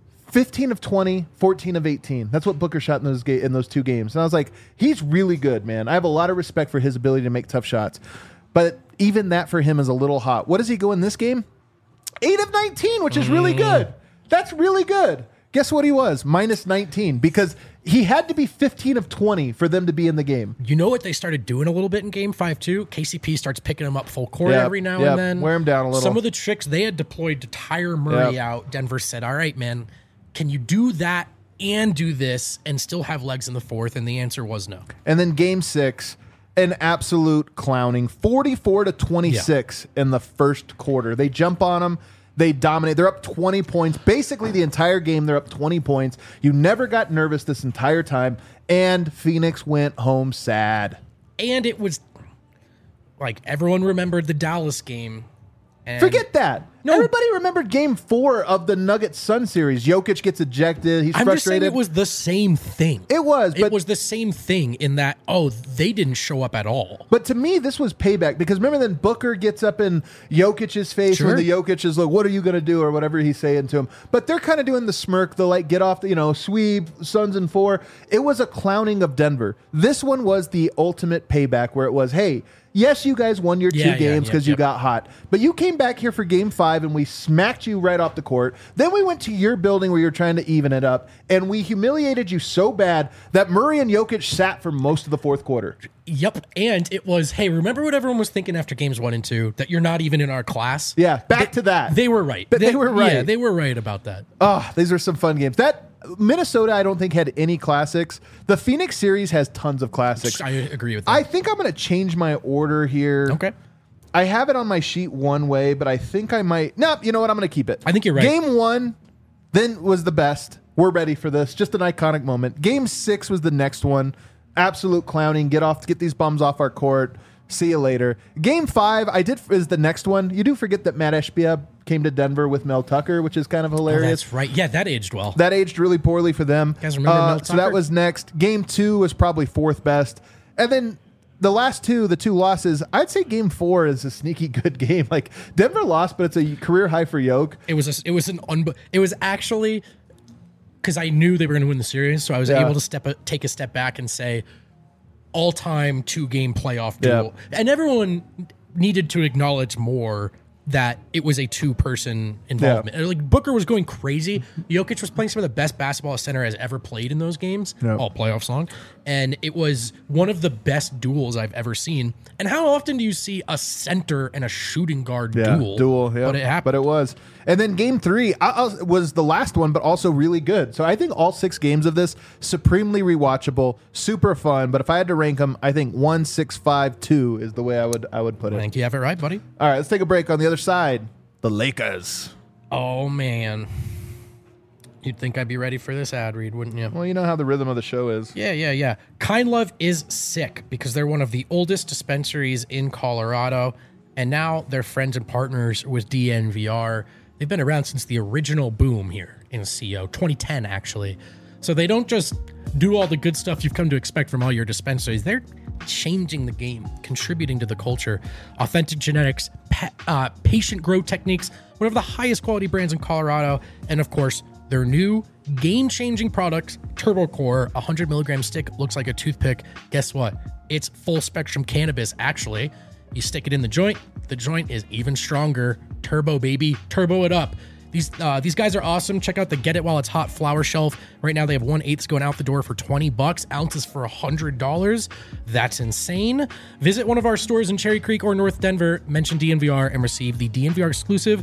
15 of 20, 14 of 18. That's what Booker shot in those two games. And I was like, he's really good, man. I have a lot of respect for his ability to make tough shots. But even that for him is a little hot. What does he go in this game? 8 of 19, which is really good. That's really good. Guess what he was? Minus 19, because he had to be 15 of 20 for them to be in the game. You know what they started doing a little bit in game 5 too? KCP starts picking him up full court every now and then. Wear him down a little. Some of the tricks they had deployed to tire Murray out, Denver said, all right, man, can you do that and do this and still have legs in the fourth? And the answer was no. And then game 6, an absolute clowning, 44-26 in the first quarter. They jump on them. They dominate. They're up 20 points. Basically, the entire game, they're up 20 points. You never got nervous this entire time. And Phoenix went home sad. And it was like everyone remembered the Dallas game. And forget that. No. Everybody remembered game 4 of the Nuggets-Sun series. Jokic gets ejected. He's frustrated. I'm just saying it was the same thing. It was. It was the same thing in that, they didn't show up at all. But to me, this was payback because remember then Booker gets up in Jokic's face when the Jokic is like, what are you going to do? Or whatever he's saying to him. But they're kind of doing the smirk, the get off, sweep, Suns in 4. It was a clowning of Denver. This one was the ultimate payback where it was, hey, yes, you guys won your 2 games because you got hot. But you came back here for game 5 and we smacked you right off the court. Then we went to your building where you're trying to even it up. And we humiliated you so bad that Murray and Jokic sat for most of the fourth quarter. Yep. And it was, hey, remember what everyone was thinking after games 1 and 2? That you're not even in our class? Yeah, back to that. They were right. They were right. Yeah, they were right about that. Oh, these are some fun games. Minnesota, I don't think, had any classics. The Phoenix series has tons of classics. I agree with that. I think I'm going to change my order here. Okay. I have it on my sheet one way, but I think I might... No, you know what? I'm going to keep it. I think you're right. Game 1 then was the best. We're ready for this. Just an iconic moment. Game 6 was the next one. Absolute clowning. Get these bums off our court. See you later. Game 5 is the next one. You do forget that Matt Ashbia came to Denver with Mel Tucker, which is kind of hilarious. Oh, that's right. Yeah, that aged well. That aged really poorly for them. You guys remember Mel Tucker? So that was next. Game 2 was probably 4th best. And then the last the 2 losses, I'd say game 4 is a sneaky good game. Like Denver lost, but it's a career high for Yoke. It was actually because I knew they were going to win the series, so I was able to take a step back and say all-time 2-game playoff duel. And everyone needed to acknowledge more that it was a 2-person involvement. Yeah. Like Booker was going crazy. Jokic was playing some of the best basketball a center has ever played in those games, all playoffs long. And it was one of the best duels I've ever seen. And how often do you see a center and a shooting guard duel? Yeah. But it happened. But it was. And then game 3 was the last one, but also really good. So I think all 6 games of this, supremely rewatchable, super fun. But if I had to rank them, I think 1, 6, 5, 2 is the way I would put it. I think you have it right, buddy. All right, let's take a break. On the other side, the Lakers. Oh, man. You'd think I'd be ready for this ad read, wouldn't you? Well, you know how the rhythm of the show is. Yeah. Kind Love is sick because they're one of the oldest dispensaries in Colorado, and now they're friends and partners with DNVR. They've been around since the original boom here in CO, 2010, actually. So they don't just do all the good stuff you've come to expect from all your dispensaries. They're changing the game, contributing to the culture. Authentic genetics, patient grow techniques, one of the highest quality brands in Colorado, and of course, their new game-changing product, Turbo Core, 100 milligram stick, looks like a toothpick. Guess what? It's full-spectrum cannabis, actually. You stick it in the joint is even stronger. Turbo, baby. Turbo it up. These guys are awesome. Check out the Get It While It's Hot flower shelf. Right now, they have 1/8 going out the door for $20, ounces for $100. That's insane. Visit one of our stores in Cherry Creek or North Denver, mention DNVR, and receive the DNVR exclusive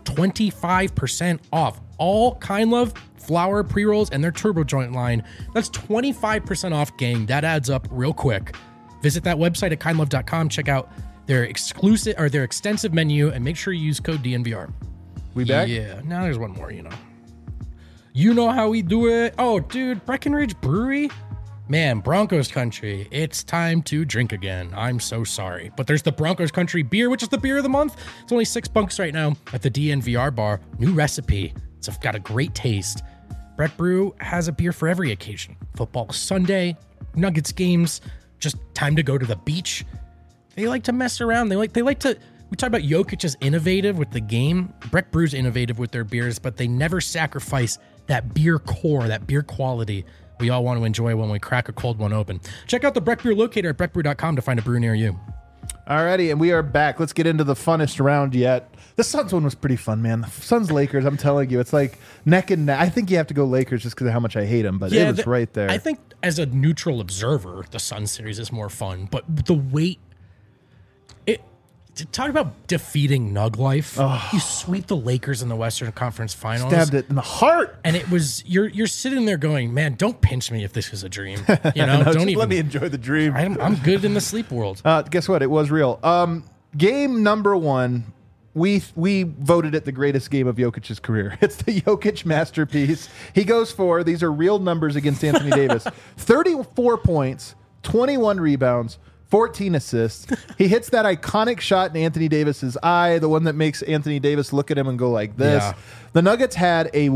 25% off all Kind Love flower pre-rolls and their Turbo Joint line. That's 25% off, gang. That adds up real quick. Visit that website at kindlove.com. Check out their exclusive or their extensive menu and make sure you use code DNVR. We back? Yeah. Now there's one more, You know how we do it. Oh, dude, Breckenridge Brewery. Man, Broncos country. It's time to drink again. I'm so sorry. But there's the Broncos country beer, which is the beer of the month. It's only $6 right now at the DNVR bar. New recipe. It's got a great taste. Breck Brew has a beer for every occasion. Football Sunday, Nuggets games, just time to go to the beach. They like to mess around. They like to. We talk about Jokic is innovative with the game. Breck Brew's innovative with their beers, but they never sacrifice that beer core, that beer quality we all want to enjoy when we crack a cold one open. Check out the Breck Brew locator at breckbrew.com to find a brew near you. Alrighty, and we are back. Let's get into the funnest round yet. The Suns one was pretty fun, man. The Suns Lakers, I'm telling you, it's like neck and neck. I think you have to go Lakers just because of how much I hate them, but it was right there. I think as a neutral observer, the Suns series is more fun, but the weight. Talk about defeating Nug life. Oh. You sweep the Lakers in the Western Conference Finals. Stabbed it in the heart. And it was you're sitting there going, man, don't pinch me if this is a dream. No, don't even let me enjoy the dream. I'm good in the sleep world. Guess what? It was real. Game number 1. We voted it the greatest game of Jokic's career. It's the Jokic masterpiece. He goes for, these are real numbers against Anthony Davis, 34 points, 21 rebounds, 14 assists. He hits that iconic shot in Anthony Davis's eye, the one that makes Anthony Davis look at him and go like this. Yeah. The Nuggets had a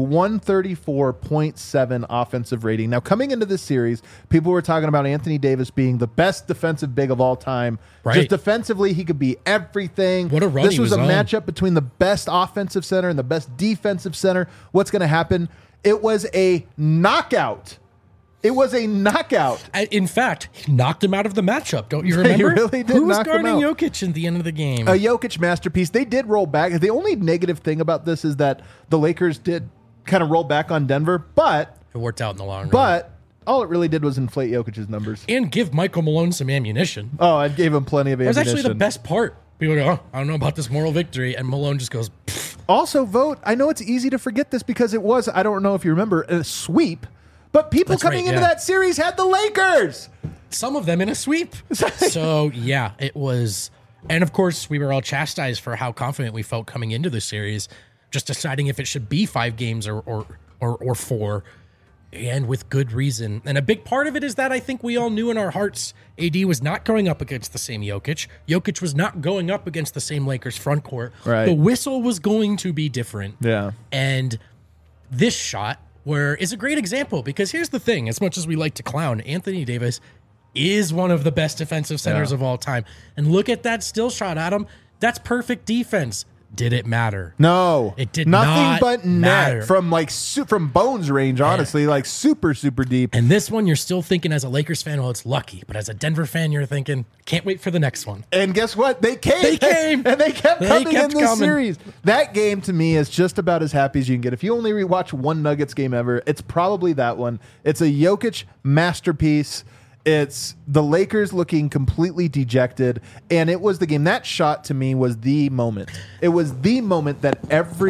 134.7 offensive rating. Now, coming into this series, people were talking about Anthony Davis being the best defensive big of all time. Right. Just defensively, he could be everything. What a run This was a matchup between the best offensive center and the best defensive center. What's going to happen? It was a knockout. It was a knockout. In fact, he knocked him out of the matchup. Don't you remember? He really did. Who was guarding Jokic at the end of the game? A Jokic masterpiece. They did roll back. The only negative thing about this is that the Lakers did kind of roll back on Denver, but it worked out in the long run. But all it really did was inflate Jokic's numbers and give Michael Malone some ammunition. Oh, I gave him plenty of ammunition. That was actually the best part. People go, I don't know about this moral victory, and Malone just goes. Pfft. Also, vote. I know it's easy to forget this because it was. I don't know if you remember a sweep. But people coming into that series had the Lakers. Some of them in a sweep. So, yeah, it was. And, of course, we were all chastised for how confident we felt coming into the series, just deciding if it should be 5 games or 4, and with good reason. And a big part of it is that I think we all knew in our hearts AD was not going up against the same Jokic. Jokic was not going up against the same Lakers front court. Right. The whistle was going to be different. Yeah. And this shot is a great example because here's the thing, as much as we like to clown, Anthony Davis is one of the best defensive centers of all time. And look at that still shot, Adam. That's perfect defense. Did it matter? No. It did Nothing not but matter. Net from from Bones range, honestly, like super, super deep. And this one, you're still thinking as a Lakers fan, well, it's lucky. But as a Denver fan, you're thinking, can't wait for the next one. And guess what? They came. They came. And they kept coming in this series. That game, to me, is just about as happy as you can get. If you only rewatch one Nuggets game ever, it's probably that one. It's a Jokic masterpiece. It's the Lakers looking completely dejected, and it was the game. That shot to me was the moment. It was the moment that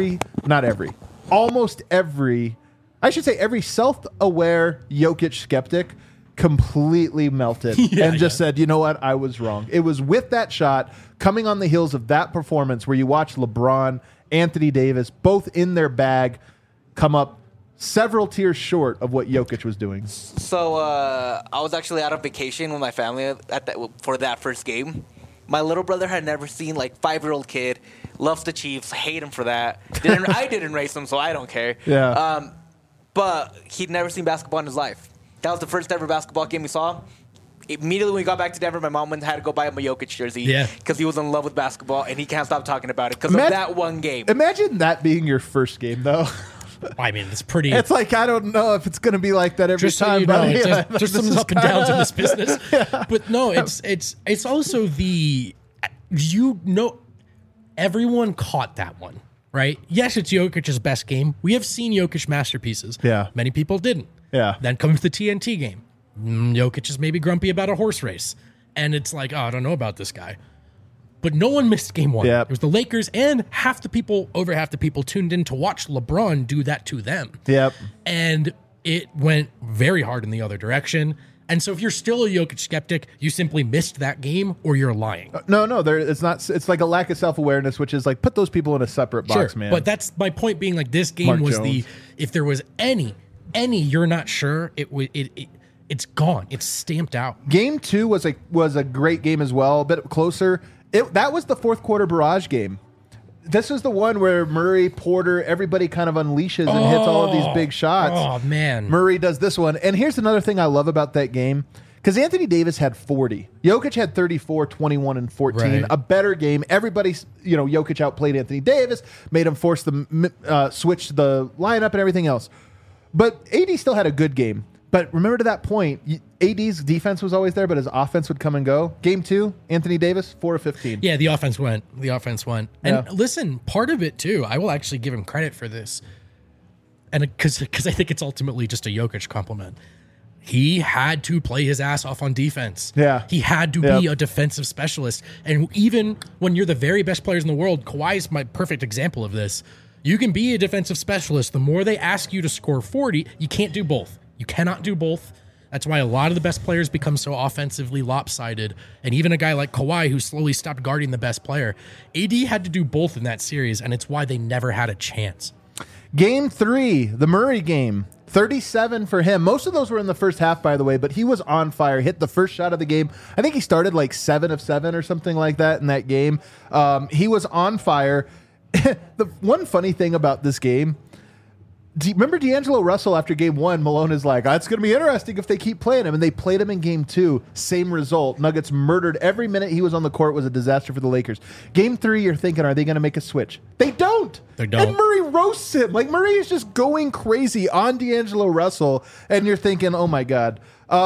almost every self-aware Jokic skeptic completely melted and just said, you know what, I was wrong. It was with that shot coming on the heels of that performance where you watch LeBron Anthony Davis, both in their bag, come up several tiers short of what Jokic was doing. So I was actually out on vacation with my family for that first game. My little brother had never seen, 5-year-old kid, loves the Chiefs, hate him for that. I didn't race him, so I don't care. Yeah. But he'd never seen basketball in his life. That was the first ever basketball game we saw. Immediately when we got back to Denver, my mom had to go buy him a Jokic jersey because he was in love with basketball, and he can't stop talking about it because of that one game. Imagine that being your first game, though. I mean, it's pretty. It's I don't know if it's going to be like that every time. So you know, there's some up and downs in this business. But no, it's also everyone caught that one, right? Yes, it's Jokic's best game. We have seen Jokic masterpieces. Yeah. Many people didn't. Yeah. Then comes the TNT game. Jokic is maybe grumpy about a horse race. And it's I don't know about this guy. But no one missed game one. Yep. It was the Lakers, and over half the people tuned in to watch LeBron do that to them. Yep. And it went very hard in the other direction. And so if you're still a Jokic skeptic, you simply missed that game or you're lying. No, it's not. It's like a lack of self-awareness, which is put those people in a separate box, man. But that's my point being this game was if there was any you're not sure, it's gone. It's stamped out. Game 2 was a great game as well, a bit closer. That was the fourth quarter barrage game. This is the one where Murray, Porter, everybody kind of unleashes and hits all of these big shots. Oh, man. Murray does this one. And here's another thing I love about that game. Because Anthony Davis had 40. Jokic had 34, 21, and 14. Right. A better game. Everybody, Jokic outplayed Anthony Davis, made him force the switch the lineup and everything else. But AD still had a good game. But remember to that point, AD's defense was always there, but his offense would come and go. Game 2, Anthony Davis, 4 of 15. Yeah, the offense went. And listen, part of it too, I will actually give him credit for this. And because I think it's ultimately just a Jokic compliment. He had to play his ass off on defense. Yeah. He had to be a defensive specialist. And even when you're the very best players in the world, Kawhi is my perfect example of this. You can be a defensive specialist. The more they ask you to score 40, you can't do both. You cannot do both. That's why a lot of the best players become so offensively lopsided. And even a guy like Kawhi, who slowly stopped guarding the best player, AD had to do both in that series, and it's why they never had a chance. Game 3, the Murray game, 37 for him. Most of those were in the first half, by the way, but he was on fire. Hit the first shot of the game. I think he started 7 of 7 or something like that in that game. He was on fire. The one funny thing about this game, remember D'Angelo Russell after game 1, Malone is like, it's going to be interesting if they keep playing him. And they played him in game 2. Same result. Nuggets murdered every minute he was on the court. Was a disaster for the Lakers. Game 3, you're thinking, are they going to make a switch? They don't. And Murray roasts him. Murray is just going crazy on D'Angelo Russell. And you're thinking, oh my God.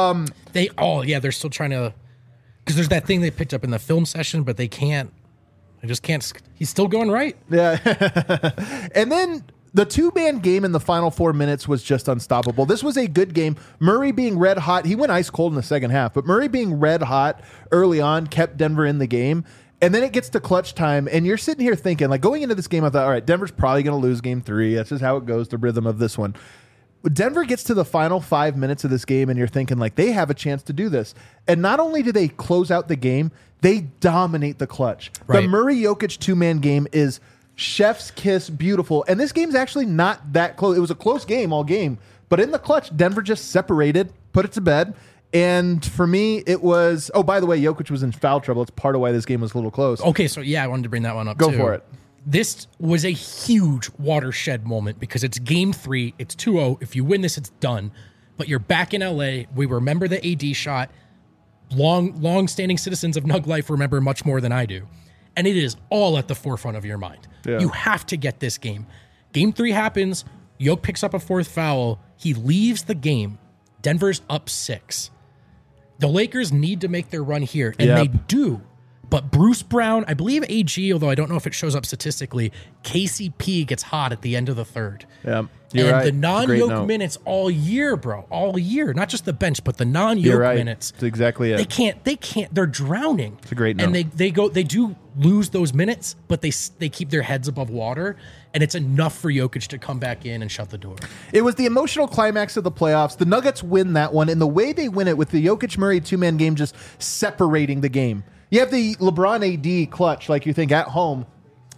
They're still trying to, because there's that thing they picked up in the film session, but they just can't. He's still going right. Yeah. And then the two-man game in the final 4 minutes was just unstoppable. This was a good game. Murray being red hot. He went ice cold in the second half, but Murray being red hot early on kept Denver in the game. And then it gets to clutch time, and you're sitting here thinking, going into this game, I thought, all right, Denver's probably going to lose game 3. That's just how it goes, the rhythm of this one. Denver gets to the final 5 minutes of this game, and you're thinking, they have a chance to do this. And not only do they close out the game, they dominate the clutch. Right. The Murray-Jokic two-man game is chef's kiss beautiful. And this game's actually not that close. It was a close game all game. But in the clutch, Denver just separated, put it to bed. And for me, it was... Oh, by the way, Jokic was in foul trouble. It's part of why this game was a little close. Okay, so I wanted to bring that one up, Go for it. This was a huge watershed moment because it's game 3. It's 2-0. If you win this, it's done. But you're back in L.A. We remember the AD shot. Long-standing citizens of Nug Life remember much more than I do. And it is all at the forefront of your mind. Yeah. You have to get this game. Game 3 happens. Jokic picks up a 4th foul. He leaves the game. Denver's up 6. The Lakers need to make their run here, and they do. But Bruce Brown, I believe AG, although I don't know if it shows up statistically, KCP gets hot at the end of the third. Yeah, you're right. The non-Jokic minutes all year, bro. All year. Not just the bench, but the non-Jokic minutes. That's exactly it. They can't. They're drowning. It's a great note. And they do lose those minutes, but they keep their heads above water, and it's enough for Jokic to come back in and shut the door. It was the emotional climax of the playoffs. The Nuggets win that one, and the way they win it with the Jokic-Murray two-man game just separating the game. You have the LeBron AD clutch, like you think, at home.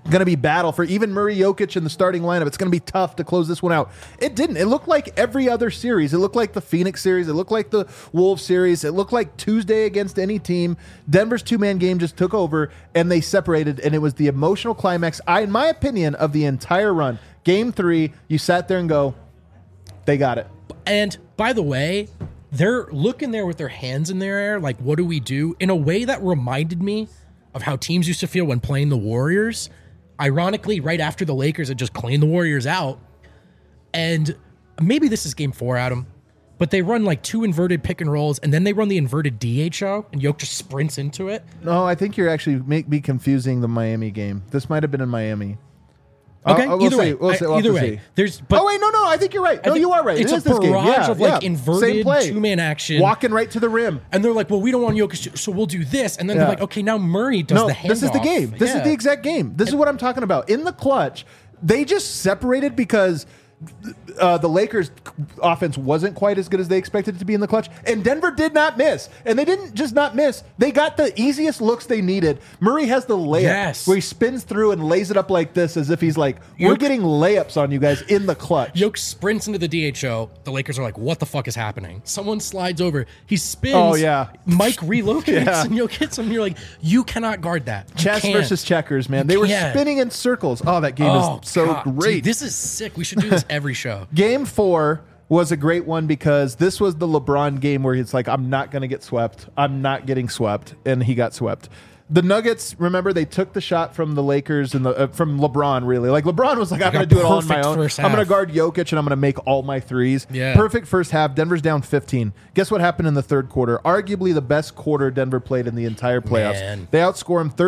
going to be battle for even Murray, Jokic in the starting lineup. It's going to be tough to close this one out. It didn't. It looked like every other series. It looked like the Phoenix series. It looked like the Wolves series. It looked like Tuesday against any team. Denver's two-man game just took over, and they separated, and it was the emotional climax, in my opinion, of the entire run. Game 3, you sat there and go, they got it. And by the way, they're looking there with their hands in their air, like, what do we do? In a way that reminded me of how teams used to feel when playing the Warriors. Ironically, right after the Lakers had just cleaned the Warriors out. And maybe this is game 4, Adam, but they run like 2 inverted pick and rolls, and then they run the inverted DHO, and Jokic just sprints into it. No, I think you're actually be confusing the Miami game. This might have been in Miami. Okay, either way. Either way. Oh, wait, no, I think you're right. No, you are right. It's a barrage of like inverted two-man action. Walking right to the rim. And they're like, well, we don't want Jokic, so we'll do this. And then they're like, okay, now Murray does the handoff. This is the game. This is the exact game. This is what I'm talking about. In the clutch, they just separated because the Lakers' offense wasn't quite as good as they expected it to be in the clutch, and Denver did not miss. And they didn't just not miss; they got the easiest looks they needed. Murray has the layup where he spins through and lays it up like this, as if he's like, "We're getting layups on you guys in the clutch." Jokic sprints into the DHO. The Lakers are like, "What the fuck is happening?" Someone slides over. He spins. Oh yeah. Mike relocates and Jokic hits him. You're like, you cannot guard that. Chess versus checkers, man. They were spinning in circles. Oh, that game is so great. Dude, this is sick. We should do this every show. Game 4 was a great one because this was the LeBron game where it's like, I'm not going to get swept. I'm not getting swept. And he got swept. The Nuggets, remember, they took the shot from the Lakers and from LeBron, really. Like, LeBron was like, I'm going to do it all on my own. I'm going to guard Jokic and I'm going to make all my threes. Yeah. Perfect first half. Denver's down 15. Guess what happened in the third quarter? Arguably the best quarter Denver played in the entire playoffs. Man. They outscore them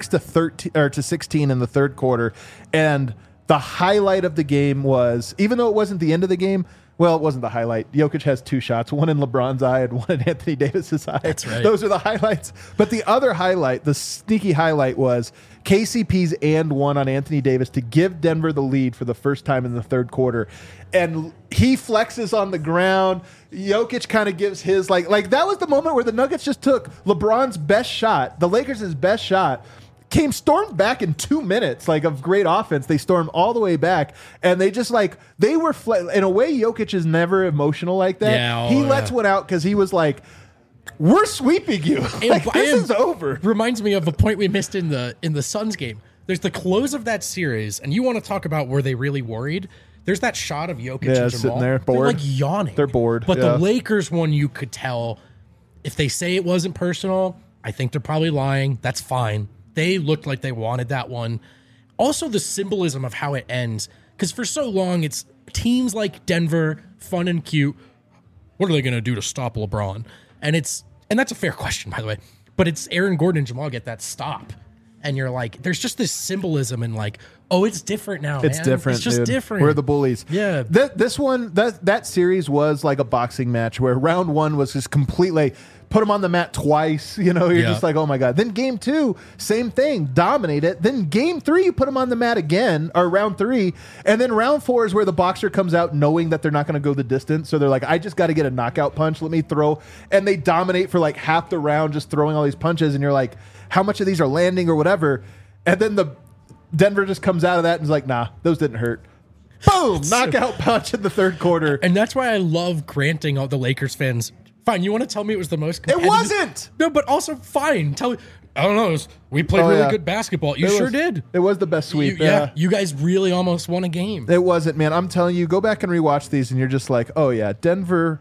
36-16 in the third quarter. And the highlight of the game was, even though it wasn't the end of the game, well, it wasn't the highlight. Jokic has 2 shots, one in LeBron's eye and one in Anthony Davis's eye. That's right. Those are the highlights. But the other highlight, the sneaky highlight, was KCP's and one on Anthony Davis to give Denver the lead for the first time in the third quarter. And he flexes on the ground. Jokic kind of gives his, like that was the moment where the Nuggets just took LeBron's best shot, the Lakers' best shot, stormed back in 2 minutes, like, of great offense. They stormed all the way back, and they just, like, they were in a way. Jokic is never emotional like that. Yeah, he lets one out because he was like, we're sweeping you. Like, this is over. Reminds me of a point we missed in the Suns game. There's the close of that series, and you want to talk about were they really worried? There's that shot of Jokic and Jamal sitting there, bored. They're like yawning. They're bored. But the Lakers one, you could tell, if they say it wasn't personal, I think they're probably lying. That's fine. They looked like they wanted that one. Also, the symbolism of how it ends, because for so long, it's teams like Denver, fun and cute. What are they going to do to stop LeBron? And that's a fair question, by the way. But it's Aaron Gordon and Jamal get that stop, and you're like, there's just this symbolism and like, oh, it's different now. It's different. It's just different. We're the bullies. Yeah. This one, that series was like a boxing match where round 1 was just completely. Put him on the mat twice, you're just like, oh my God. Then game 2, same thing, dominate it. Then game 3, you put him on the mat again, or round 3. And then round 4 is where the boxer comes out knowing that they're not going to go the distance. So they're like, I just got to get a knockout punch. Let me throw. And they dominate for like half the round, just throwing all these punches. And you're like, how much of these are landing or whatever? And then the Denver just comes out of that and is like, nah, those didn't hurt. Boom! Knockout punch in the third quarter. And that's why I love granting all the Lakers fans. Fine, you want to tell me it was the most competitive? It wasn't! No, but also, fine. I don't know. We played really good basketball. You sure did. It was the best sweep. You guys really almost won a game. It wasn't, man. I'm telling you, go back and rewatch these, and you're just like, oh, yeah, Denver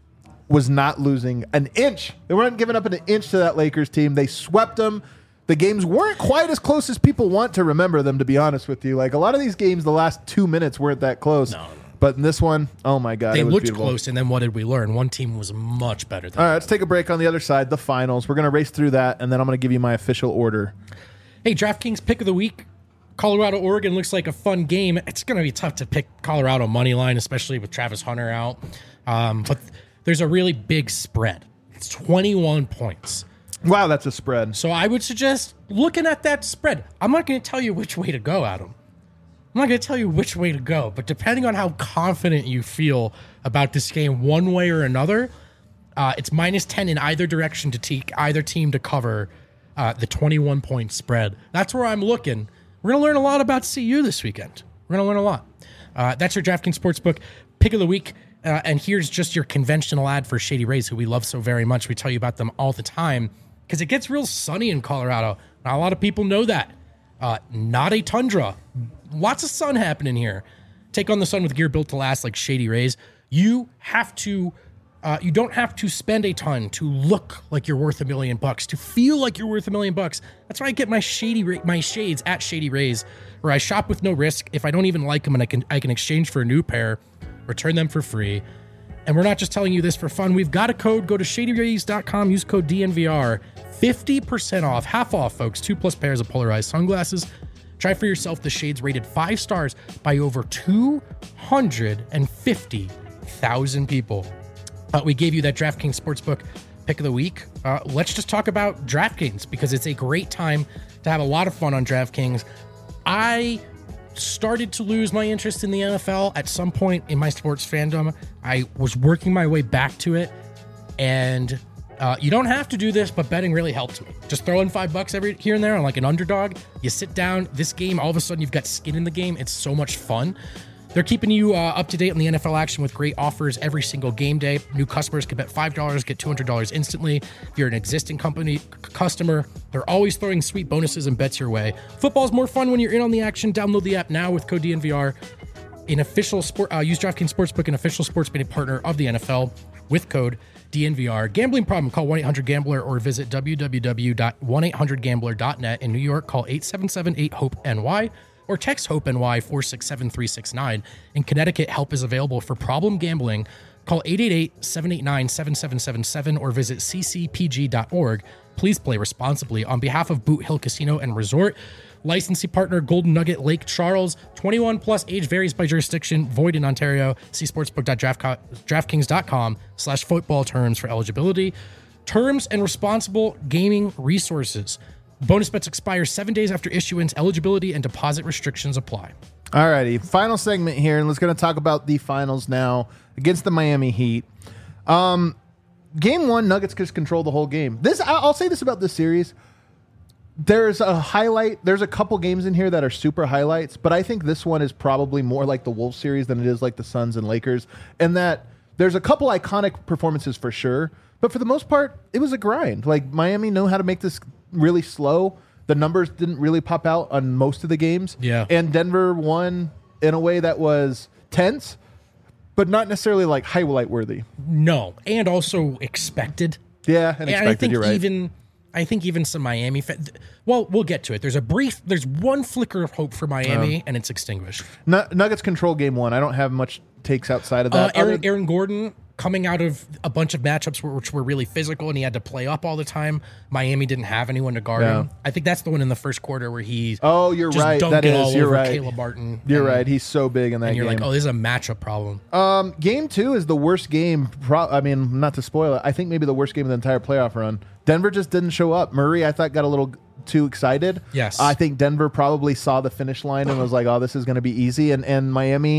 was not losing an inch. They weren't giving up an inch to that Lakers team. They swept them. The games weren't quite as close as people want to remember them, to be honest with you. Like, a lot of these games, the last 2 minutes weren't that close. No. But in this one, oh my God, they it was looked beautiful. Close, and then what did we learn? One team was much better than All right, let's take a break. On the other side, the finals. We're going to race through that, and then I'm going to give you my official order. Hey, DraftKings pick of the week. Colorado, Oregon looks like a fun game. It's going to be tough to pick Colorado money line, especially with Travis Hunter out. But there's a really big spread. It's 21 points. Wow, that's a spread. So I would suggest looking at that spread. I'm not going to tell you which way to go, Adam. I'm not going to tell you which way to go, but depending on how confident you feel about this game one way or another, it's -10 in either direction to take either team to cover the 21-point spread. That's where I'm looking. We're going to learn a lot about CU this weekend. We're going to learn a lot. That's your DraftKings Sportsbook pick of the week. And here's just your conventional ad for Shady Rays, who we love so very much. We tell you about them all the time because it gets real sunny in Colorado. Not a lot of people know that. Not a tundra. Lots of sun happening here. Take on the sun with gear built to last like Shady Rays. You don't have to spend a ton to look like you're worth $1 million, to feel like you're worth $1 million. That's why I get my shades at Shady Rays, where I shop with no risk. If I don't even like them, and I can exchange for a new pair, return them for free. And we're not just telling you this for fun. We've got a code. Go to shadyrays.com. Use code DNVR. 50% off, half off, folks. 2+ pairs of polarized sunglasses. Try for yourself the shades rated 5 stars by over 250,000 people. We gave you that DraftKings Sportsbook pick of the week. Let's just talk about DraftKings because it's a great time to have a lot of fun on DraftKings. I started to lose my interest in the NFL at some point in my sports fandom. I was working my way back to it, and you don't have to do this, but betting really helped me. Just throw in $5 every here and there on like an underdog. You sit down, this game, all of a sudden you've got skin in the game. It's so much fun. They're keeping you up to date on the NFL action with great offers every single game day. New customers can bet $5, get $200 instantly. If you're an existing customer, they're always throwing sweet bonuses and bets your way. Football's more fun when you're in on the action. Download the app now with code DNVR. Use DraftKings Sportsbook, an official sports betting partner of the NFL, with code DNVR. Gambling problem, call 1-800-GAMBLER or visit www.1800gambler.net. In New York, call 877-8-HOPE-NY. Or text HOPE-NY 467-3669. In Connecticut, help is available for problem gambling. Call 888-789-7777 or visit ccpg.org. Please play responsibly. On behalf of Boot Hill Casino and Resort, licensee partner Golden Nugget Lake Charles, 21 plus, age varies by jurisdiction, void in Ontario. See sportsbook.draftkings.com/football terms for eligibility, terms, and responsible gaming resources. Bonus bets expire 7 days after issuance. Eligibility and deposit restrictions apply. All righty. Final segment here, and let's going to talk about the finals now against the Miami Heat. Game 1, Nuggets just control the whole game. I'll say this about this series. There's a highlight. There's a couple games in here that are super highlights, but I think this one is probably more like the Wolves series than it is like the Suns and Lakers, and that there's a couple iconic performances for sure, but for the most part, it was a grind. Like, Miami knew how to make this really slow. The numbers didn't really pop out on most of the games. Yeah. And Denver won in a way that was tense, but not necessarily like highlight worthy. No. And also expected. Yeah, and expected, you're right. I think even some Miami well, we'll get to it. There's one flicker of hope for Miami, and it's extinguished. Nuggets control game 1. I don't have much takes outside of that. Aaron Gordon coming out of a bunch of matchups which were really physical, and he had to play up all the time. Miami didn't have anyone to guard him. I think that's the one in the first quarter where he's you're right. That is, you're right. Caleb Martin. You're right. He's so big in that game. And you're like, this is a matchup problem. Game 2 is the worst game. Not to spoil it, I think maybe the worst game of the entire playoff run. Denver just didn't show up. Murray, I thought, got a little too excited. Yes. I think Denver probably saw the finish line and was like, this is going to be easy. And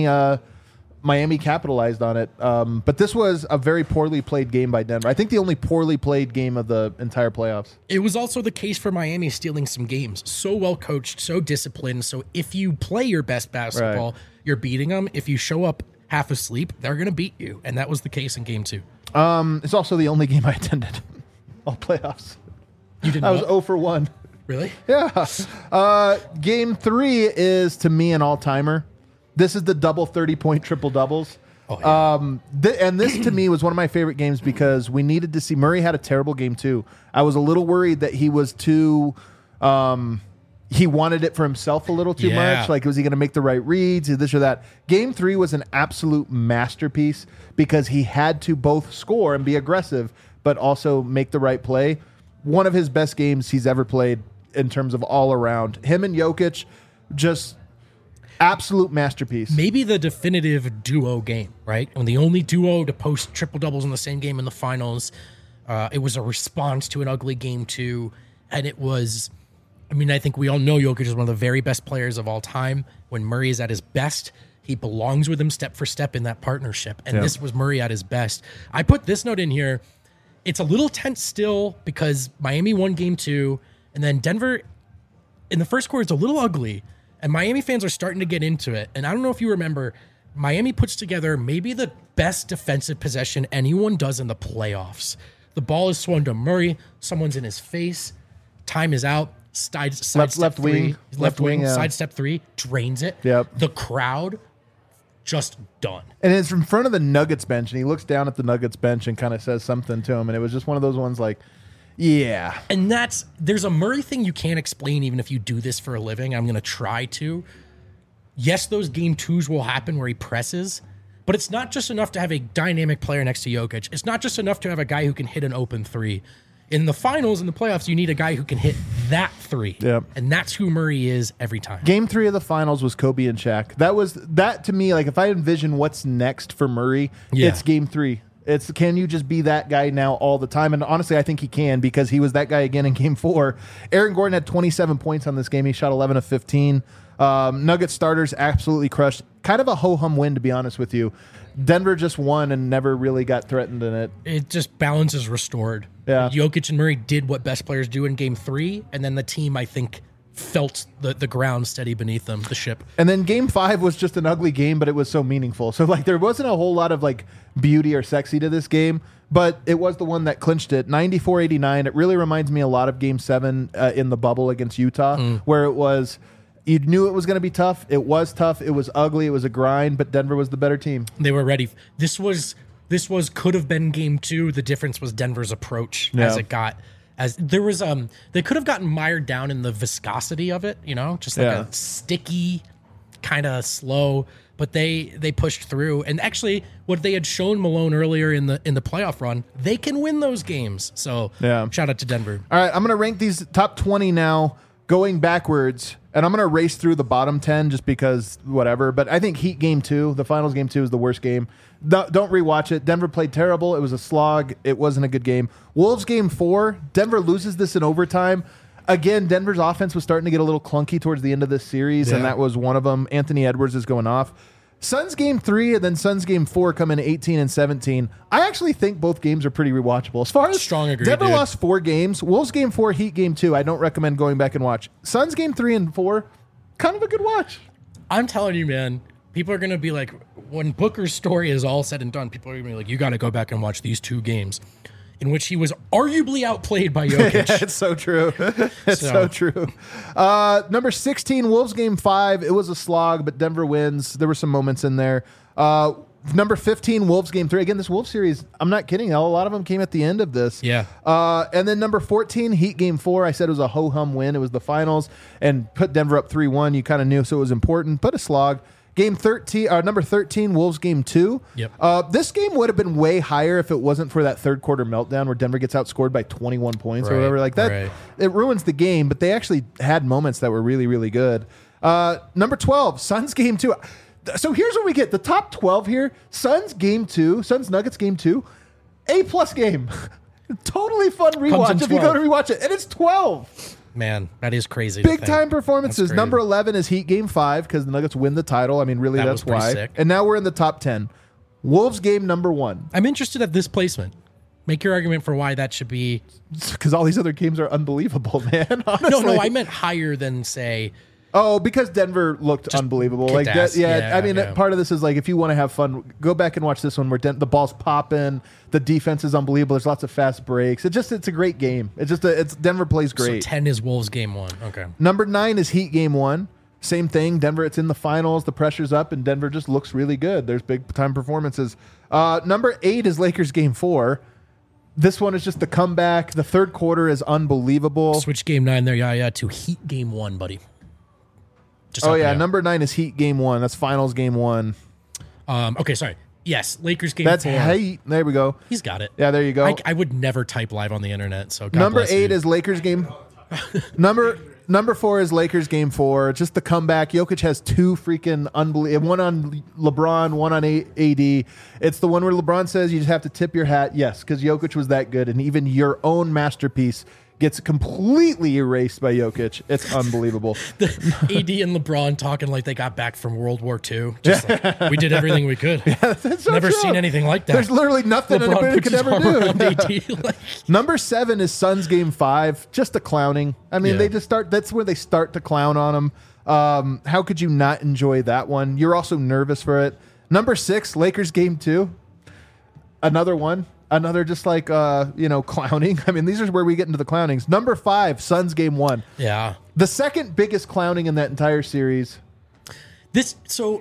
Miami capitalized on it. But this was a very poorly played game by Denver. I think the only poorly played game of the entire playoffs. It was also the case for Miami stealing some games. So well coached, so disciplined. So if you play your best basketball, you're beating them. If you show up half asleep, they're going to beat you. And that was the case in game 2. It's also the only game I attended all playoffs. You didn't? I was 0 for 1. Really? Yeah. Game 3 is, to me, an all-timer. This is the double 30-point triple doubles. Oh, yeah. And this, to me, was one of my favorite games because we needed to see. Murray had a terrible game, too. I was a little worried that he was too. He wanted it for himself a little too much. Like, was he going to make the right reads, this or that? Game 3 was an absolute masterpiece because he had to both score and be aggressive, but also make the right play. One of his best games he's ever played in terms of all around. Him and Jokic, just absolute masterpiece. Maybe the definitive duo game, right? When the only duo to post triple doubles in the same game in the finals. It was a response to an ugly game 2, and it was. I think we all know Jokic is one of the very best players of all time. When Murray is at his best, he belongs with him step for step in that partnership. And this was Murray at his best. I put this note in here. It's a little tense still because Miami won game 2, and then Denver in the first quarter is a little ugly, And Miami fans are starting to get into it. And I don't know if you remember, Miami puts together maybe the best defensive possession anyone does in the playoffs. The ball is swung to Murray. Someone's in his face. Time is out. Left wing. Sidestep 3. Drains it. Yep. The crowd just done. And it's in front of the Nuggets bench, and he looks down at the Nuggets bench and kind of says something to him. And it was just one of those ones like, yeah. And there's a Murray thing you can't explain even if you do this for a living. I'm going to try to. Yes, those game twos will happen where he presses, but it's not just enough to have a dynamic player next to Jokic. It's not just enough to have a guy who can hit an open three. In the finals, in the playoffs, you need a guy who can hit that three. Yep. And that's who Murray is every time. Game 3 of the finals was Kobe and Shaq. That to me, like if I envision what's next for Murray, it's game 3. It's can you just be that guy now all the time? And honestly, I think he can because he was that guy again in game 4. Aaron Gordon had 27 points on this game. He shot 11 of 15. Nuggets starters absolutely crushed. Kind of a ho-hum win, to be honest with you. Denver just won and never really got threatened in it. It just balance is restored. Yeah. Jokic and Murray did what best players do in game 3, and then the team, I think, felt the ground steady beneath them, the ship. And then game 5 was just an ugly game, but it was so meaningful. So like there wasn't a whole lot of like beauty or sexy to this game, but it was the one that clinched it. 94-89. It really reminds me a lot of game 7 in the bubble against Utah, where it was... You knew it was going to be tough. It was tough. It was ugly. It was a grind, but Denver was the better team. They were ready. This could have been game 2. The difference was Denver's approach they could have gotten mired down in the viscosity of it, just like a sticky, kind of slow, but they pushed through. And actually what they had shown Malone earlier in the playoff run, they can win those games. So shout out to Denver. All right. I'm going to rank these top 20 now going backwards. And I'm going to race through the bottom 10 just because whatever. But I think Heat game 2, the finals game 2 is the worst game. Don't rewatch it. Denver played terrible. It was a slog. It wasn't a good game. Wolves game 4, Denver loses this in overtime. Again, Denver's offense was starting to get a little clunky towards the end of this series, and that was one of them. Anthony Edwards is going off. Suns game 3 and then Suns game 4 come in 18 and 17. I actually think both games are pretty rewatchable. As far as strong agree, Denver lost 4 games. Wolves game 4, Heat game 2. I don't recommend going back and watch. Suns game 3 and 4, kind of a good watch. I'm telling you, man, people are going to be like, when Booker's story is all said and done, people are going to be like, you got to go back and watch these 2 games in which he was arguably outplayed by Jokic. Yeah, it's so true. It's so true. Number 16, Wolves game 5. It was a slog, but Denver wins. There were some moments in there. Number 15, Wolves game 3. Again, this Wolves series, I'm not kidding. A lot of them came at the end of this. Yeah. And then number 14, Heat game 4. I said it was a ho-hum win. It was the finals and put Denver up 3-1. You kind of knew, so it was important, but a slog. Game 13, number 13, Wolves game 2. Yep. This game would have been way higher if it wasn't for that third quarter meltdown where Denver gets outscored by 21 points or whatever like that. Right. It ruins the game, but they actually had moments that were really, really good. Number 12, Suns game 2. So here's what we get. The top 12 here, Suns game 2, Suns Nuggets game 2, A+ game. Totally fun rewatch if you go to rewatch it. And it's 12. Man, that is crazy. Big time performances. Number 11 is Heat game 5 because the Nuggets win the title. I mean, really, that's why. Sick. And now we're in the top 10. Wolves game number 1. I'm interested at this placement. Make your argument for why that should be. Because all these other games are unbelievable, man. Honestly. No, I meant higher than, say. Oh, because Denver looked unbelievable. Like that, I mean, part of this is like if you want to have fun, go back and watch this one where the ball's popping, the defense is unbelievable. There's lots of fast breaks. It's a great game. It's Denver plays great. So 10 is Wolves game 1. Okay. Number 9 is Heat game 1. Same thing. Denver. It's in the finals. The pressure's up, and Denver just looks really good. There's big time performances. Number 8 is Lakers game 4. This one is just the comeback. The third quarter is unbelievable. Switch game 9 there, to Heat game 1, buddy. Number 9 is Heat game 1. That's finals game 1. Okay, sorry. Yes, Lakers game 4. That's Heat. There we go. He's got it. Yeah, there you go. I would never type live on the internet. So God number bless 8 you. is Lakers game. Number 4 is Lakers game 4. Just the comeback. Jokic has 2 freaking unbelievable. One on LeBron, one on AD. It's the one where LeBron says you just have to tip your hat. Yes, because Jokic was that good, and even your own masterpiece gets completely erased by Jokic. It's unbelievable. The AD and LeBron talking like they got back from World War II. Just like, we did everything we could. Yeah, that's so Never seen anything like that. There's literally nothing anybody could ever do. Number 7 is Suns game 5. Just the clowning. I mean, they just start. That's where they start to clown on him. How could you not enjoy that one? You're also nervous for it. Number 6, Lakers game 2. Another one. Another just like, clowning. I mean, these are where we get into the clownings. Number 5, Suns game 1. Yeah. The second biggest clowning in that entire series. So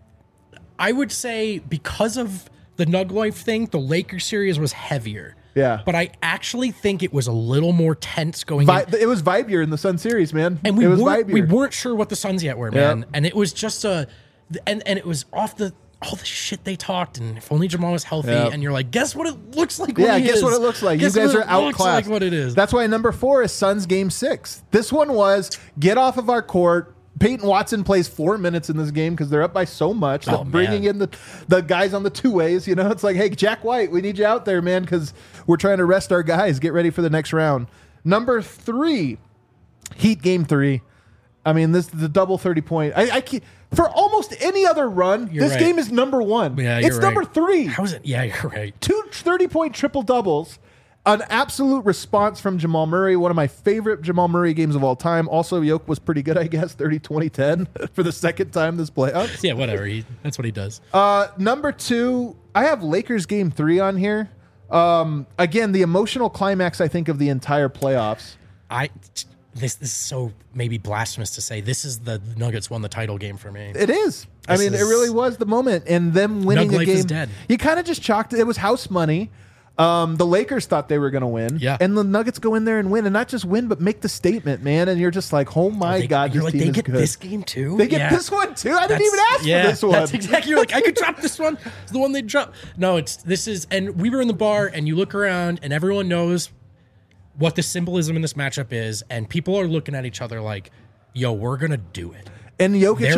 I would say because of the Nug Life thing, the Lakers series was heavier. Yeah. But I actually think it was a little more tense going in. It was vibier in the Sun series, man. And we weren't sure what the Suns yet were, man. Yeah. And it was just and it was off all the shit they talked, and if only Jamal was healthy, and you're like, guess what it looks like when he guess is. what it looks like. Guess you guys are outclassed. Like what it is. That's why number 4 is Suns game 6. This one was get off of our court. Peyton Watson plays 4 minutes in this game because they're up by so much. Bringing in the guys on the two-ways, it's like, hey, Jack White, we need you out there, man, because we're trying to rest our guys. Get ready for the next round. Number 3, Heat game 3. I mean, this is the double 30-point. I can't, for almost any other run, this game is number 1. Yeah, it's number 3. How is it? Yeah, you're right. 2 30-point triple-doubles. An absolute response from Jamal Murray. One of my favorite Jamal Murray games of all time. Also, Yoke was pretty good, I guess. 30-20-10 for the second time this playoffs. Yeah, whatever. That's what he does. Number 2, I have Lakers game 3 on here. Again, the emotional climax, I think, of the entire playoffs. This is so maybe blasphemous to say. This is the Nuggets won the title game for me. It is. It really was the moment. And them winning a game. Is dead. You kind of just chalked it. It was house money. The Lakers thought they were going to win. Yeah. And the Nuggets go in there and win. And not just win, but make the statement, man. And you're just like, oh my God, this team is good. They get this game too? They get this one too? I didn't even ask for this one. That's exactly. You're like, I could drop this one. It's the one they dropped. No, and we were in the bar and you look around and everyone knows what the symbolism in this matchup is. And people are looking at each other like, yo, we're going to do it. And Jokic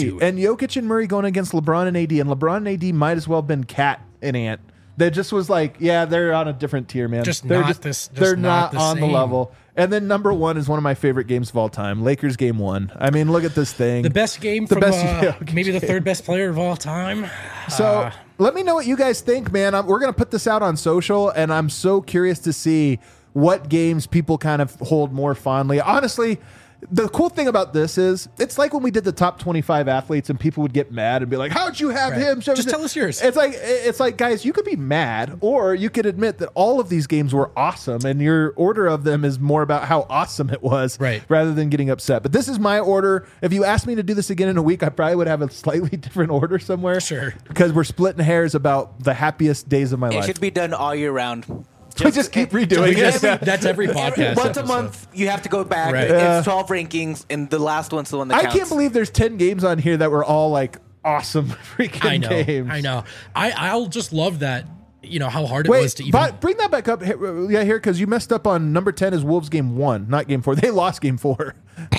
and Murray going against LeBron and AD. And LeBron and AD might as well have been Cat and Ant. That just was like, yeah, they're on a different tier, man. They're not on the level. And then number 1 is one of my favorite games of all time, Lakers game 1. I mean, look at this thing. The best game maybe the third best player of all time. So let me know what you guys think, man. We're going to put this out on social, and I'm so curious to see what games people kind of hold more fondly. Honestly, the cool thing about this is it's like when we did the top 25 athletes and people would get mad and be like, how'd you have him? Just tell us yours. It's like, guys, you could be mad or you could admit that all of these games were awesome and your order of them is more about how awesome it was rather than getting upset. But this is my order. If you asked me to do this again in a week, I probably would have a slightly different order somewhere. Sure. Because we're splitting hairs about the happiest days of my life. It should be done all year round. We just keep redoing it. That's every podcast. Once a month, you have to go back. Right. It's 12 rankings, and the last one's the one that counts. I can't believe there's 10 games on here that were all like awesome freaking games. I know. I'll just love that. How hard it was to even bring that back up here because you messed up on number 10 is Wolves game 1, not game 4. They lost game 4.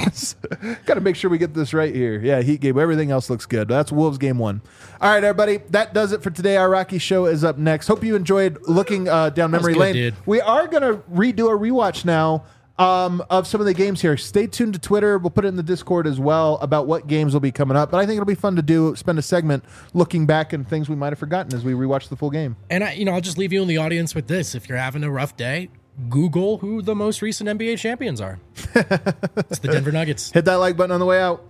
Got to make sure we get this right here. Yeah, Heat game. Everything else looks good. That's Wolves game 1. All right, everybody. That does it for today. Our Rocky Show is up next. Hope you enjoyed looking down memory lane. Dude. We are going to redo a rewatch now of some of the games here. Stay tuned to Twitter. We'll put it in the Discord as well about what games will be coming up. But I think it'll be fun to spend a segment looking back and things we might have forgotten as we rewatch the full game. And I'll just leave you in the audience with this. If you're having a rough day, Google who the most recent NBA champions are. It's the Denver Nuggets. Hit that like button on the way out.